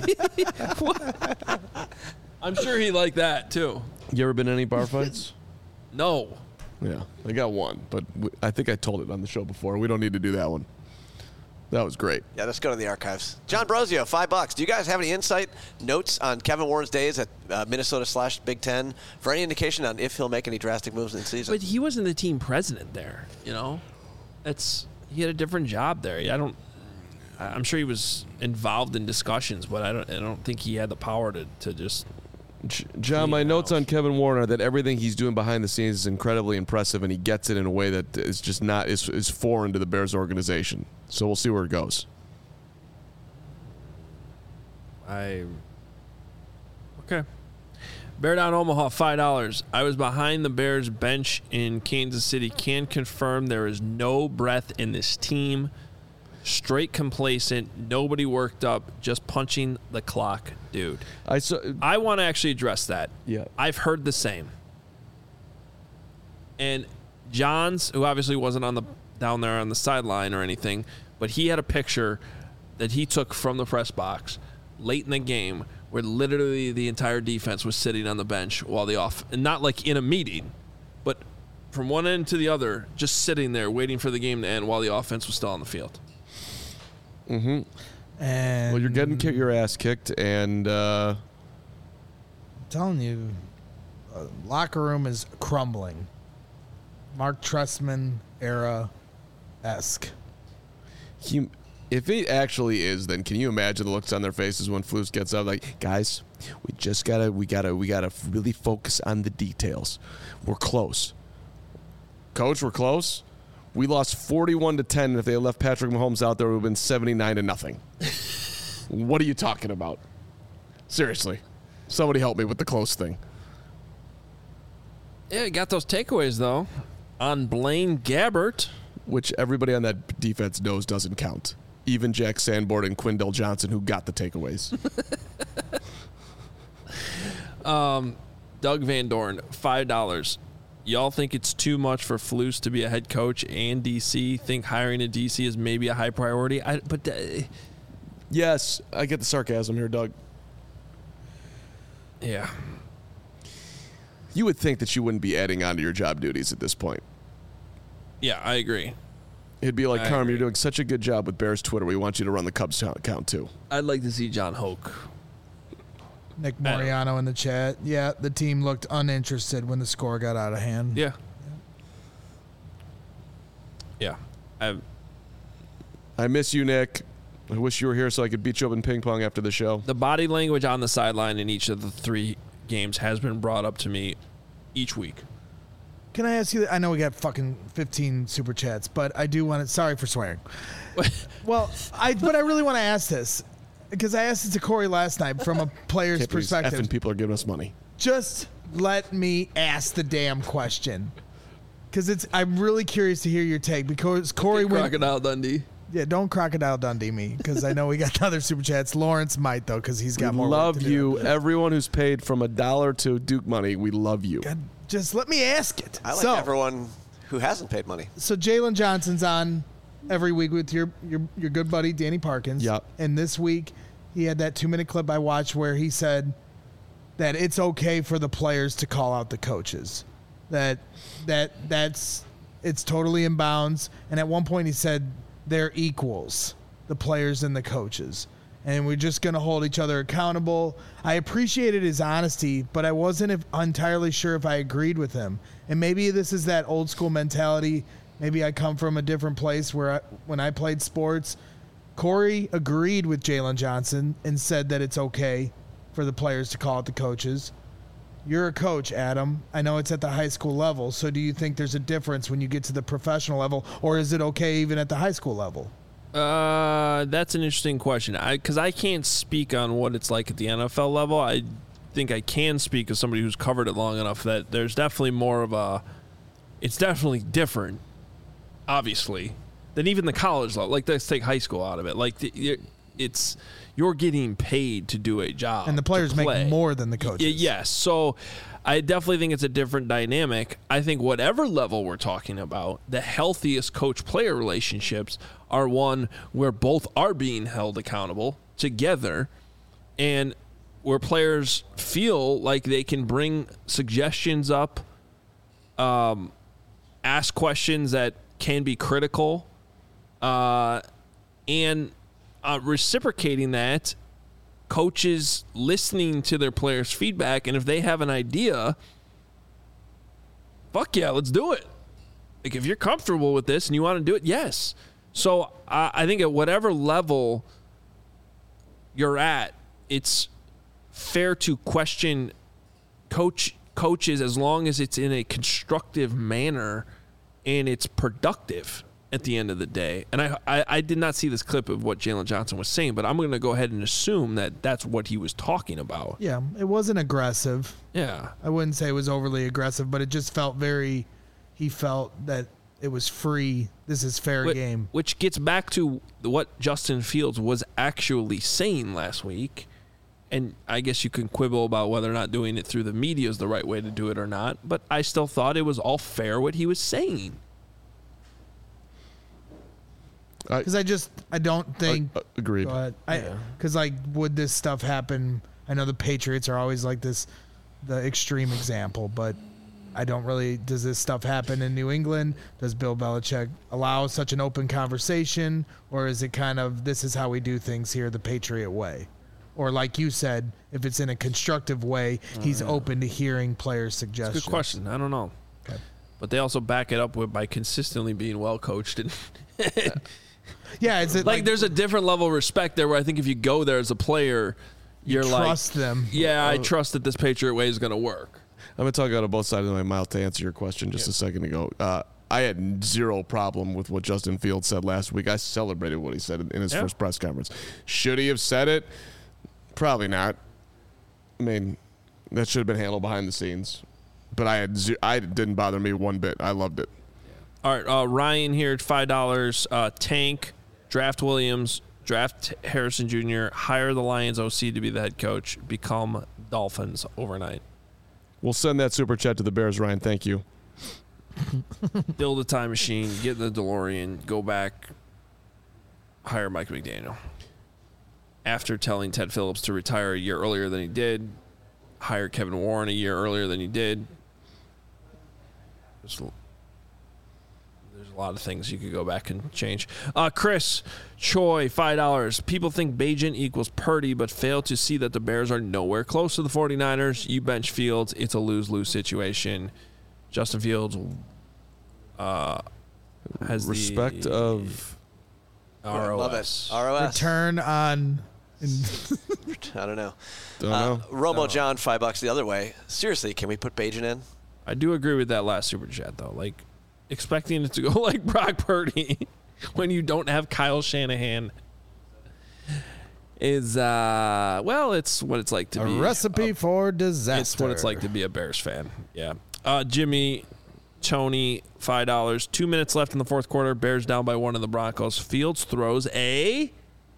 I'm sure he liked that too. You ever been in any bar fights? No, Yeah, I got one, but w- I think I told it on the show before. We don't need to do that one. That was great. Yeah, let's go to the archives. John Brosio, five bucks. Do you guys have any insight, notes on Kevin Warren's days at uh, Minnesota slash Big Ten for any indication on if he'll make any drastic moves in the season? but he wasn't the team president there. You know, that's he had a different job there. I don't. I- I'm sure he was involved in discussions, but I don't. I don't think he had the power to, to just. J- John, my Clean notes house. on Kevin Warren are that everything he's doing behind the scenes is incredibly impressive, and he gets it in a way that is just not is, is foreign to the Bears organization. So we'll see where it goes. I. Okay. Bear Down Omaha, five dollars. I was behind the Bears bench in Kansas City. Can confirm there is no breath in this team. straight complacent, nobody worked up, just punching the clock, dude. I saw, I want to actually address that. Yeah. I've heard the same. And Johns, who obviously wasn't on the down there on the sideline or anything, but he had a picture that he took from the press box late in the game where literally the entire defense was sitting on the bench while the off, and not like in a meeting, but from one end to the other, just sitting there waiting for the game to end while the offense was still on the field. Mm-hmm. And Well, you're getting ki- your ass kicked, and uh, I'm telling you, uh, locker room is crumbling. Mark Trestman era esque. he, if it actually is, then can you imagine the looks on their faces when Flus gets up? Like, guys, we just gotta, we gotta, we gotta really focus on the details. We're close, Coach. We're close. We lost forty-one to ten, and if they had left Patrick Mahomes out there, it would have been seventy-nine to nothing. What are you talking about? Seriously. Somebody help me with the close thing. Yeah, he got those takeaways, though, on Blaine Gabbert. Which everybody on that defense knows doesn't count. Even Jack Sanborn and Quindell Johnson, who got the takeaways. um, Doug Van Dorn, five dollars. Y'all think it's too much for Flus to be a head coach and D C? Think hiring a D C is maybe a high priority? I, but uh, Yes, I get the sarcasm here, Doug. yeah. You would think that you wouldn't be adding on to your job duties at this point. Yeah, I agree. It'd be like, I Carm, agree. you're doing such a good job with Bears Twitter. We want you to run the Cubs account too. I'd like to see John Hoke. Nick I don't- Moriano in the chat. Yeah, the team looked uninterested when the score got out of hand. Yeah. Yeah. I, I miss you, Nick. I wish you were here so I could beat you up in ping pong after the show. the body language on the sideline in each of the three games has been brought up to me each week. Can I ask you? I know we got fucking fifteen super chats, but I do want to. Sorry for swearing. Well, I but I really want to ask this because I asked it to Corey last night from a player's Can't believe perspective. effing people are giving us money. Just let me ask the damn question because it's. I'm really curious to hear your take because Corey went. Crocodile Dundee. Yeah, don't Crocodile Dundee me because I know we got other super chats. Lawrence might though because he's got We more. work love to do. you. Everyone who's paid from a dollar to Duke money, we love you. God, just let me ask it. I like so, everyone who hasn't paid money. So Jalen Johnson's on every week with your your your good buddy Danny Parkins. Yep. And this week he had that two minute clip I watched where he said that it's okay for the players to call out the coaches. That that that's it's totally in bounds. And at one point he said they're equals, the players and the coaches. And we're just going to hold each other accountable. I appreciated his honesty, but I wasn't if- entirely sure if I agreed with him. And maybe this is that old school mentality. Maybe I come from a different place where I, when I played sports, Corey agreed with Jalen Johnson and said that it's okay for the players to call out the coaches. You're a coach, Adam. I know it's at the high school level. So do you think there's a difference when you get to the professional level, or is it okay even at the high school level? Uh, that's an interesting question. I because I can't speak on what it's like at the N F L level. I think I can speak as somebody who's covered it long enough that there's definitely more of a. It's definitely different, obviously, than even the college level. Like, let's take high school out of it. Like, the, you're- it's you're getting paid to do a job, And the players to make play. more than the Y- coaches. yes, so I definitely think it's a different dynamic. I think whatever level we're talking about, the healthiest coach-player relationships are one where both are being held accountable together and where players feel like they can bring suggestions up, um, ask questions that can be critical, uh, and uh, reciprocating that, coaches listening to their players' feedback, and if they have an idea, fuck yeah, let's do it. Like, if you're comfortable with this and you want to do it, yes. So I, I think at whatever level you're at, it's fair to question coach coaches as long as it's in a constructive manner and it's productive at the end of the day. And I, I, I did not see this clip of what Jalen Johnson was saying, but I'm going to go ahead and assume that that's what he was talking about. Yeah, it wasn't aggressive. Yeah. I wouldn't say it was overly aggressive, but it just felt very, he felt that it was free. This is fair Wh- game. Which gets back to what Justin Fields was actually saying last week. And I guess you can quibble about whether or not doing it through the media is the right way to do it or not. But I still thought it was all fair what he was saying. Because I, I just, I don't think. Uh, agreed. Go ahead. I Because, like, would this stuff happen? I know the Patriots are always like this, the extreme example, but I don't really. Does this stuff happen in New England? Does Bill Belichick allow such an open conversation? Or is it kind of, this is how we do things here, the Patriot way? Or like you said, if it's in a constructive way, he's yeah. open to hearing players' suggestions. It's a good question. I don't know. Okay. But they also back it up with by consistently being well coached. And yeah, is it like, like, there's a different level of respect there where I think if you go there as a player, you're you like, trust them? yeah, I trust that this Patriot way is going to work. I'm going to talk out of both sides of my mouth to answer your question just Yeah. a second ago. Uh, I had zero problem with what Justin Fields said last week. I celebrated what he said in his Yeah. first press conference. Should he have said it? Probably not. I mean, that should have been handled behind the scenes. But I had ze- I it didn't bother me one bit. I loved it. All right, uh, Ryan here at five dollars. Uh, tank, draft Williams, draft Harrison Junior, hire the Lions O C to be the head coach, become Dolphins overnight. We'll send that super chat to the Bears, Ryan. Thank you. Build a time machine, get in the DeLorean, go back, hire Mike McDaniel. After telling Ted Phillips to retire a year earlier than he did, hire Kevin Warren a year earlier than he did. There's, there's a lot of things you could go back and change. Uh, Chris Choi, five dollars. People think Bagent equals Purdy, but fail to see that the Bears are nowhere close to the 49ers. You bench Fields, it's a lose-lose situation. Justin Fields uh, has Respect the of R O S. Love it. R O S. Return on. I don't know. Don't Uh, know. Romo John, five bucks the other way. Seriously, can we put Bajan in? I do agree with that last super chat though. Like expecting it to go like Brock Purdy when you don't have Kyle Shanahan is uh well, it's what it's like to A be recipe a, for disaster. It's what it's like to be a Bears fan. Yeah. Uh, Jimmy, Tony, five dollars. Two minutes left in the fourth quarter. Bears down by one of the Broncos. Fields throws a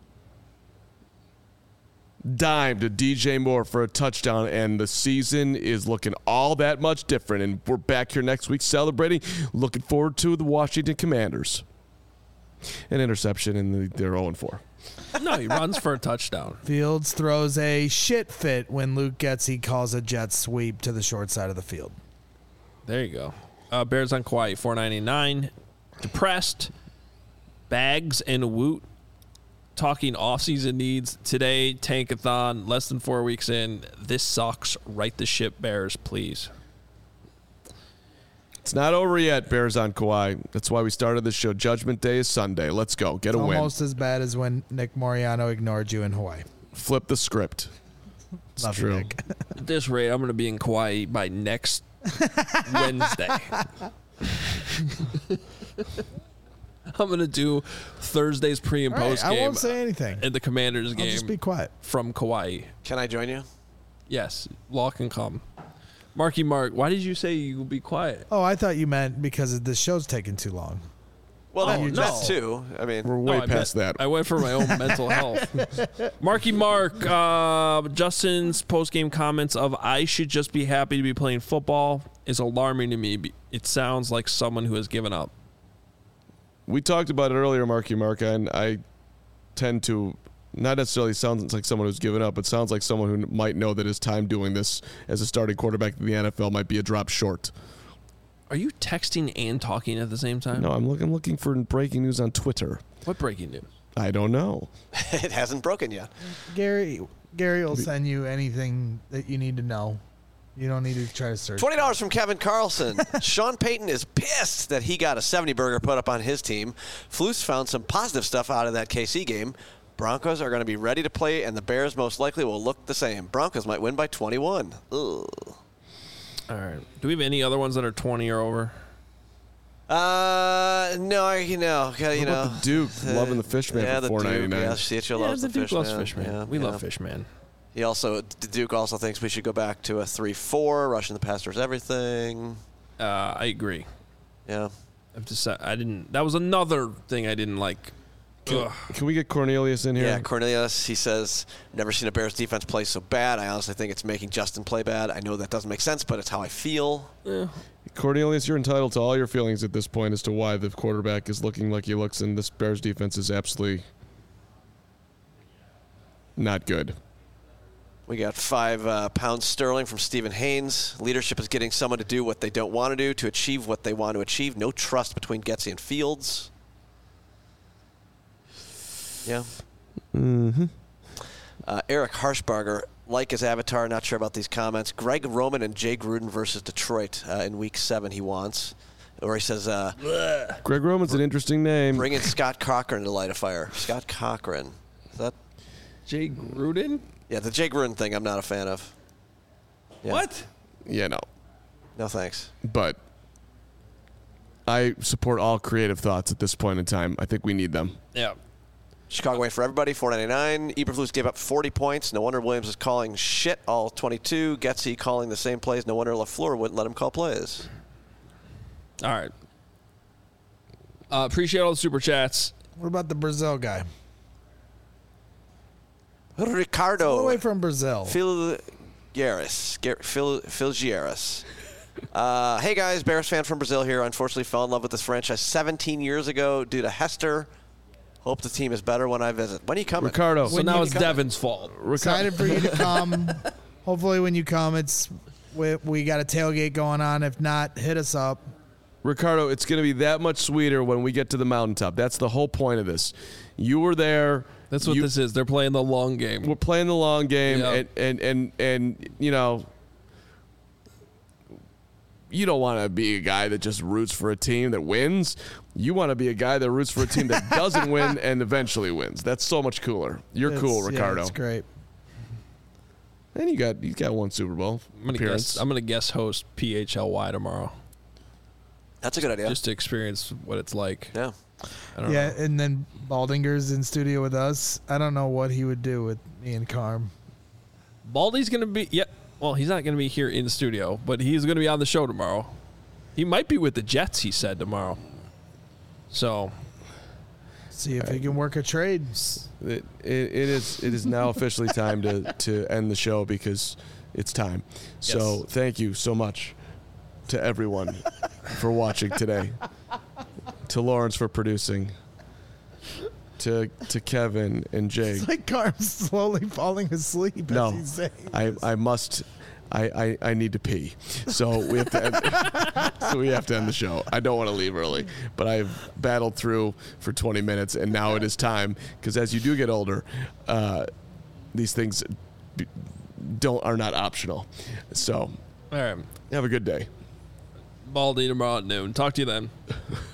dime to D J Moore for a touchdown, and the season is looking all that much different. And we're back here next week celebrating. Looking forward to the Washington Commanders. An interception, and they're oh and four. no. He runs for a touchdown. Fields throws a shit fit when Luke Getsy calls a jet sweep to the short side of the field. There you go. Uh, Bears on Kauai, four ninety-nine. Depressed. Bags and Woot talking offseason needs. Today, Tankathon, less than four weeks in. This sucks. Right the ship, Bears, please. It's not over yet, Bears on Kauai. That's why we started this show. Judgment Day is Sunday. Let's go. Get a win. Almost as bad as when Nick Moriano ignored you in Hawaii. Flip the script. It's Love you, true. Nick. At this rate, I'm going to be in Kauai by next Wednesday. I'm going to do Thursday's pre and All right, post I game won't say anything. and the Commanders I'll game just be quiet. from Kauai. Can I join you? Yes, Law can come. Marky Mark, why did you say you would be quiet? Oh, I thought you meant because this show's taking too long. Well, that, Oh, no. that too. I mean, We're No, way I past meant- that. I went for my own mental health. Marky Mark, uh, Justin's post-game comments of I should just be happy to be playing football is alarming to me. It sounds like someone who has given up. We talked about it earlier, Marky Mark, and I tend to not necessarily sound like someone who's given up, but sounds like someone who might know that his time doing this as a starting quarterback in the N F L might be a drop short. Are you texting and talking at the same time? No, I'm looking looking for breaking news on Twitter. What breaking news? I don't know. it hasn't broken yet. Gary, Gary will send you anything that you need to know. You don't need to try to search. twenty dollars from Kevin Carlson. Sean Payton is pissed that he got a seventy burger put up on his team. Flus found some positive stuff out of that K C game. Broncos are going to be ready to play, and the Bears most likely will look the same. Broncos might win by twenty-one. Ugh. All right. Do we have any other ones that are twenty or over? Uh, no, you know, you What know. about the Duke loving the Fishman yeah, for the four Duke. ninety-nine? Yeah, Cietro loves the the Duke Fishman. loves Fishman. Yeah, we yeah. love Fishman. He also, the Duke also thinks we should go back to a three four, rushing the pastors everything. Uh, I agree. Yeah. I've decided I didn't. That was another thing I didn't like. Can, can we get Cornelius in here? Yeah, Cornelius, he says, never seen a Bears defense play so bad. I honestly think it's making Justin play bad. I know that doesn't make sense, but it's how I feel. Yeah. Cornelius, you're entitled to all your feelings at this point as to why the quarterback is looking like he looks, and this Bears defense is absolutely not good. We got five uh, pounds sterling from Stephen Haynes. Leadership is getting someone to do what they don't want to do to achieve what they want to achieve. No trust between Getsy and Fields. Yeah. Mm-hmm. Uh, Eric Harshbarger, like his avatar, not sure about these comments. Greg Roman and Jay Gruden versus Detroit uh, in week seven he wants. Or he says, uh, Greg Roman's an interesting name. bring in Scott Cochran to light a fire. Scott Cochran. Is that? Jay Gruden? Yeah, the Jay Gruden thing I'm not a fan of. Yeah. What? Yeah, no. No thanks. But I support all creative thoughts at this point in time. I think we need them. Yeah. Chicago win for everybody, four ninety-nine. Eberflus gave up forty points. No wonder Williams is calling shit all twenty-two. Getsy calling the same plays. No wonder LaFleur wouldn't let him call plays. All right. Uh, appreciate all the super chats. What about the Brazil guy? Ricardo. All the way from Brazil. Phil Garris. Phil, Phil Gieris. Uh, hey, guys. Bears fan from Brazil here. Unfortunately fell in love with this franchise seventeen years ago due to Hester. Hope the team is better when I visit. When are you coming? Ricardo. So When now you it's come- Devin's fault. Excited for you to come. Hopefully when you come, it's we, we got a tailgate going on. If not, hit us up. Ricardo, it's going to be that much sweeter when we get to the mountaintop. That's the whole point of this. You were there. That's what you, this is. They're playing the long game. We're playing the long game, Yeah. and, and, and, and, you know, you don't want to be a guy that just roots for a team that wins. You want to be a guy that roots for a team that doesn't win and eventually wins. That's so much cooler. You're It's- cool, yeah, Ricardo. it's great. And you got you got one Super Bowl I'm gonna appearance. guess. I'm gonna guest host P H L Y tomorrow, That's a good idea. just to experience what it's like. yeah. I don't Yeah, know. and then Baldinger's in studio with us. I don't know what he would do with me and Carm. Baldy's gonna be. Yep. Well, he's not gonna be here in the studio, but he's gonna be on the show tomorrow. He might be with the Jets. He said tomorrow. So See if he can work a trade. It, it, it is it is now officially time to, to end the show because it's time. So Yes. thank you so much to everyone for watching today. To Lawrence for producing. To to Kevin and Jake. It's like Carm's slowly falling asleep No, as he's saying. I, I must I, I, I need to pee. So we have to end, so we have to end the show. I don't want to leave early, but I've battled through for twenty minutes, and now it is time because as you do get older, uh, these things b- don't are not optional. So all right, have a good day. Baldy tomorrow at noon. Talk to you then.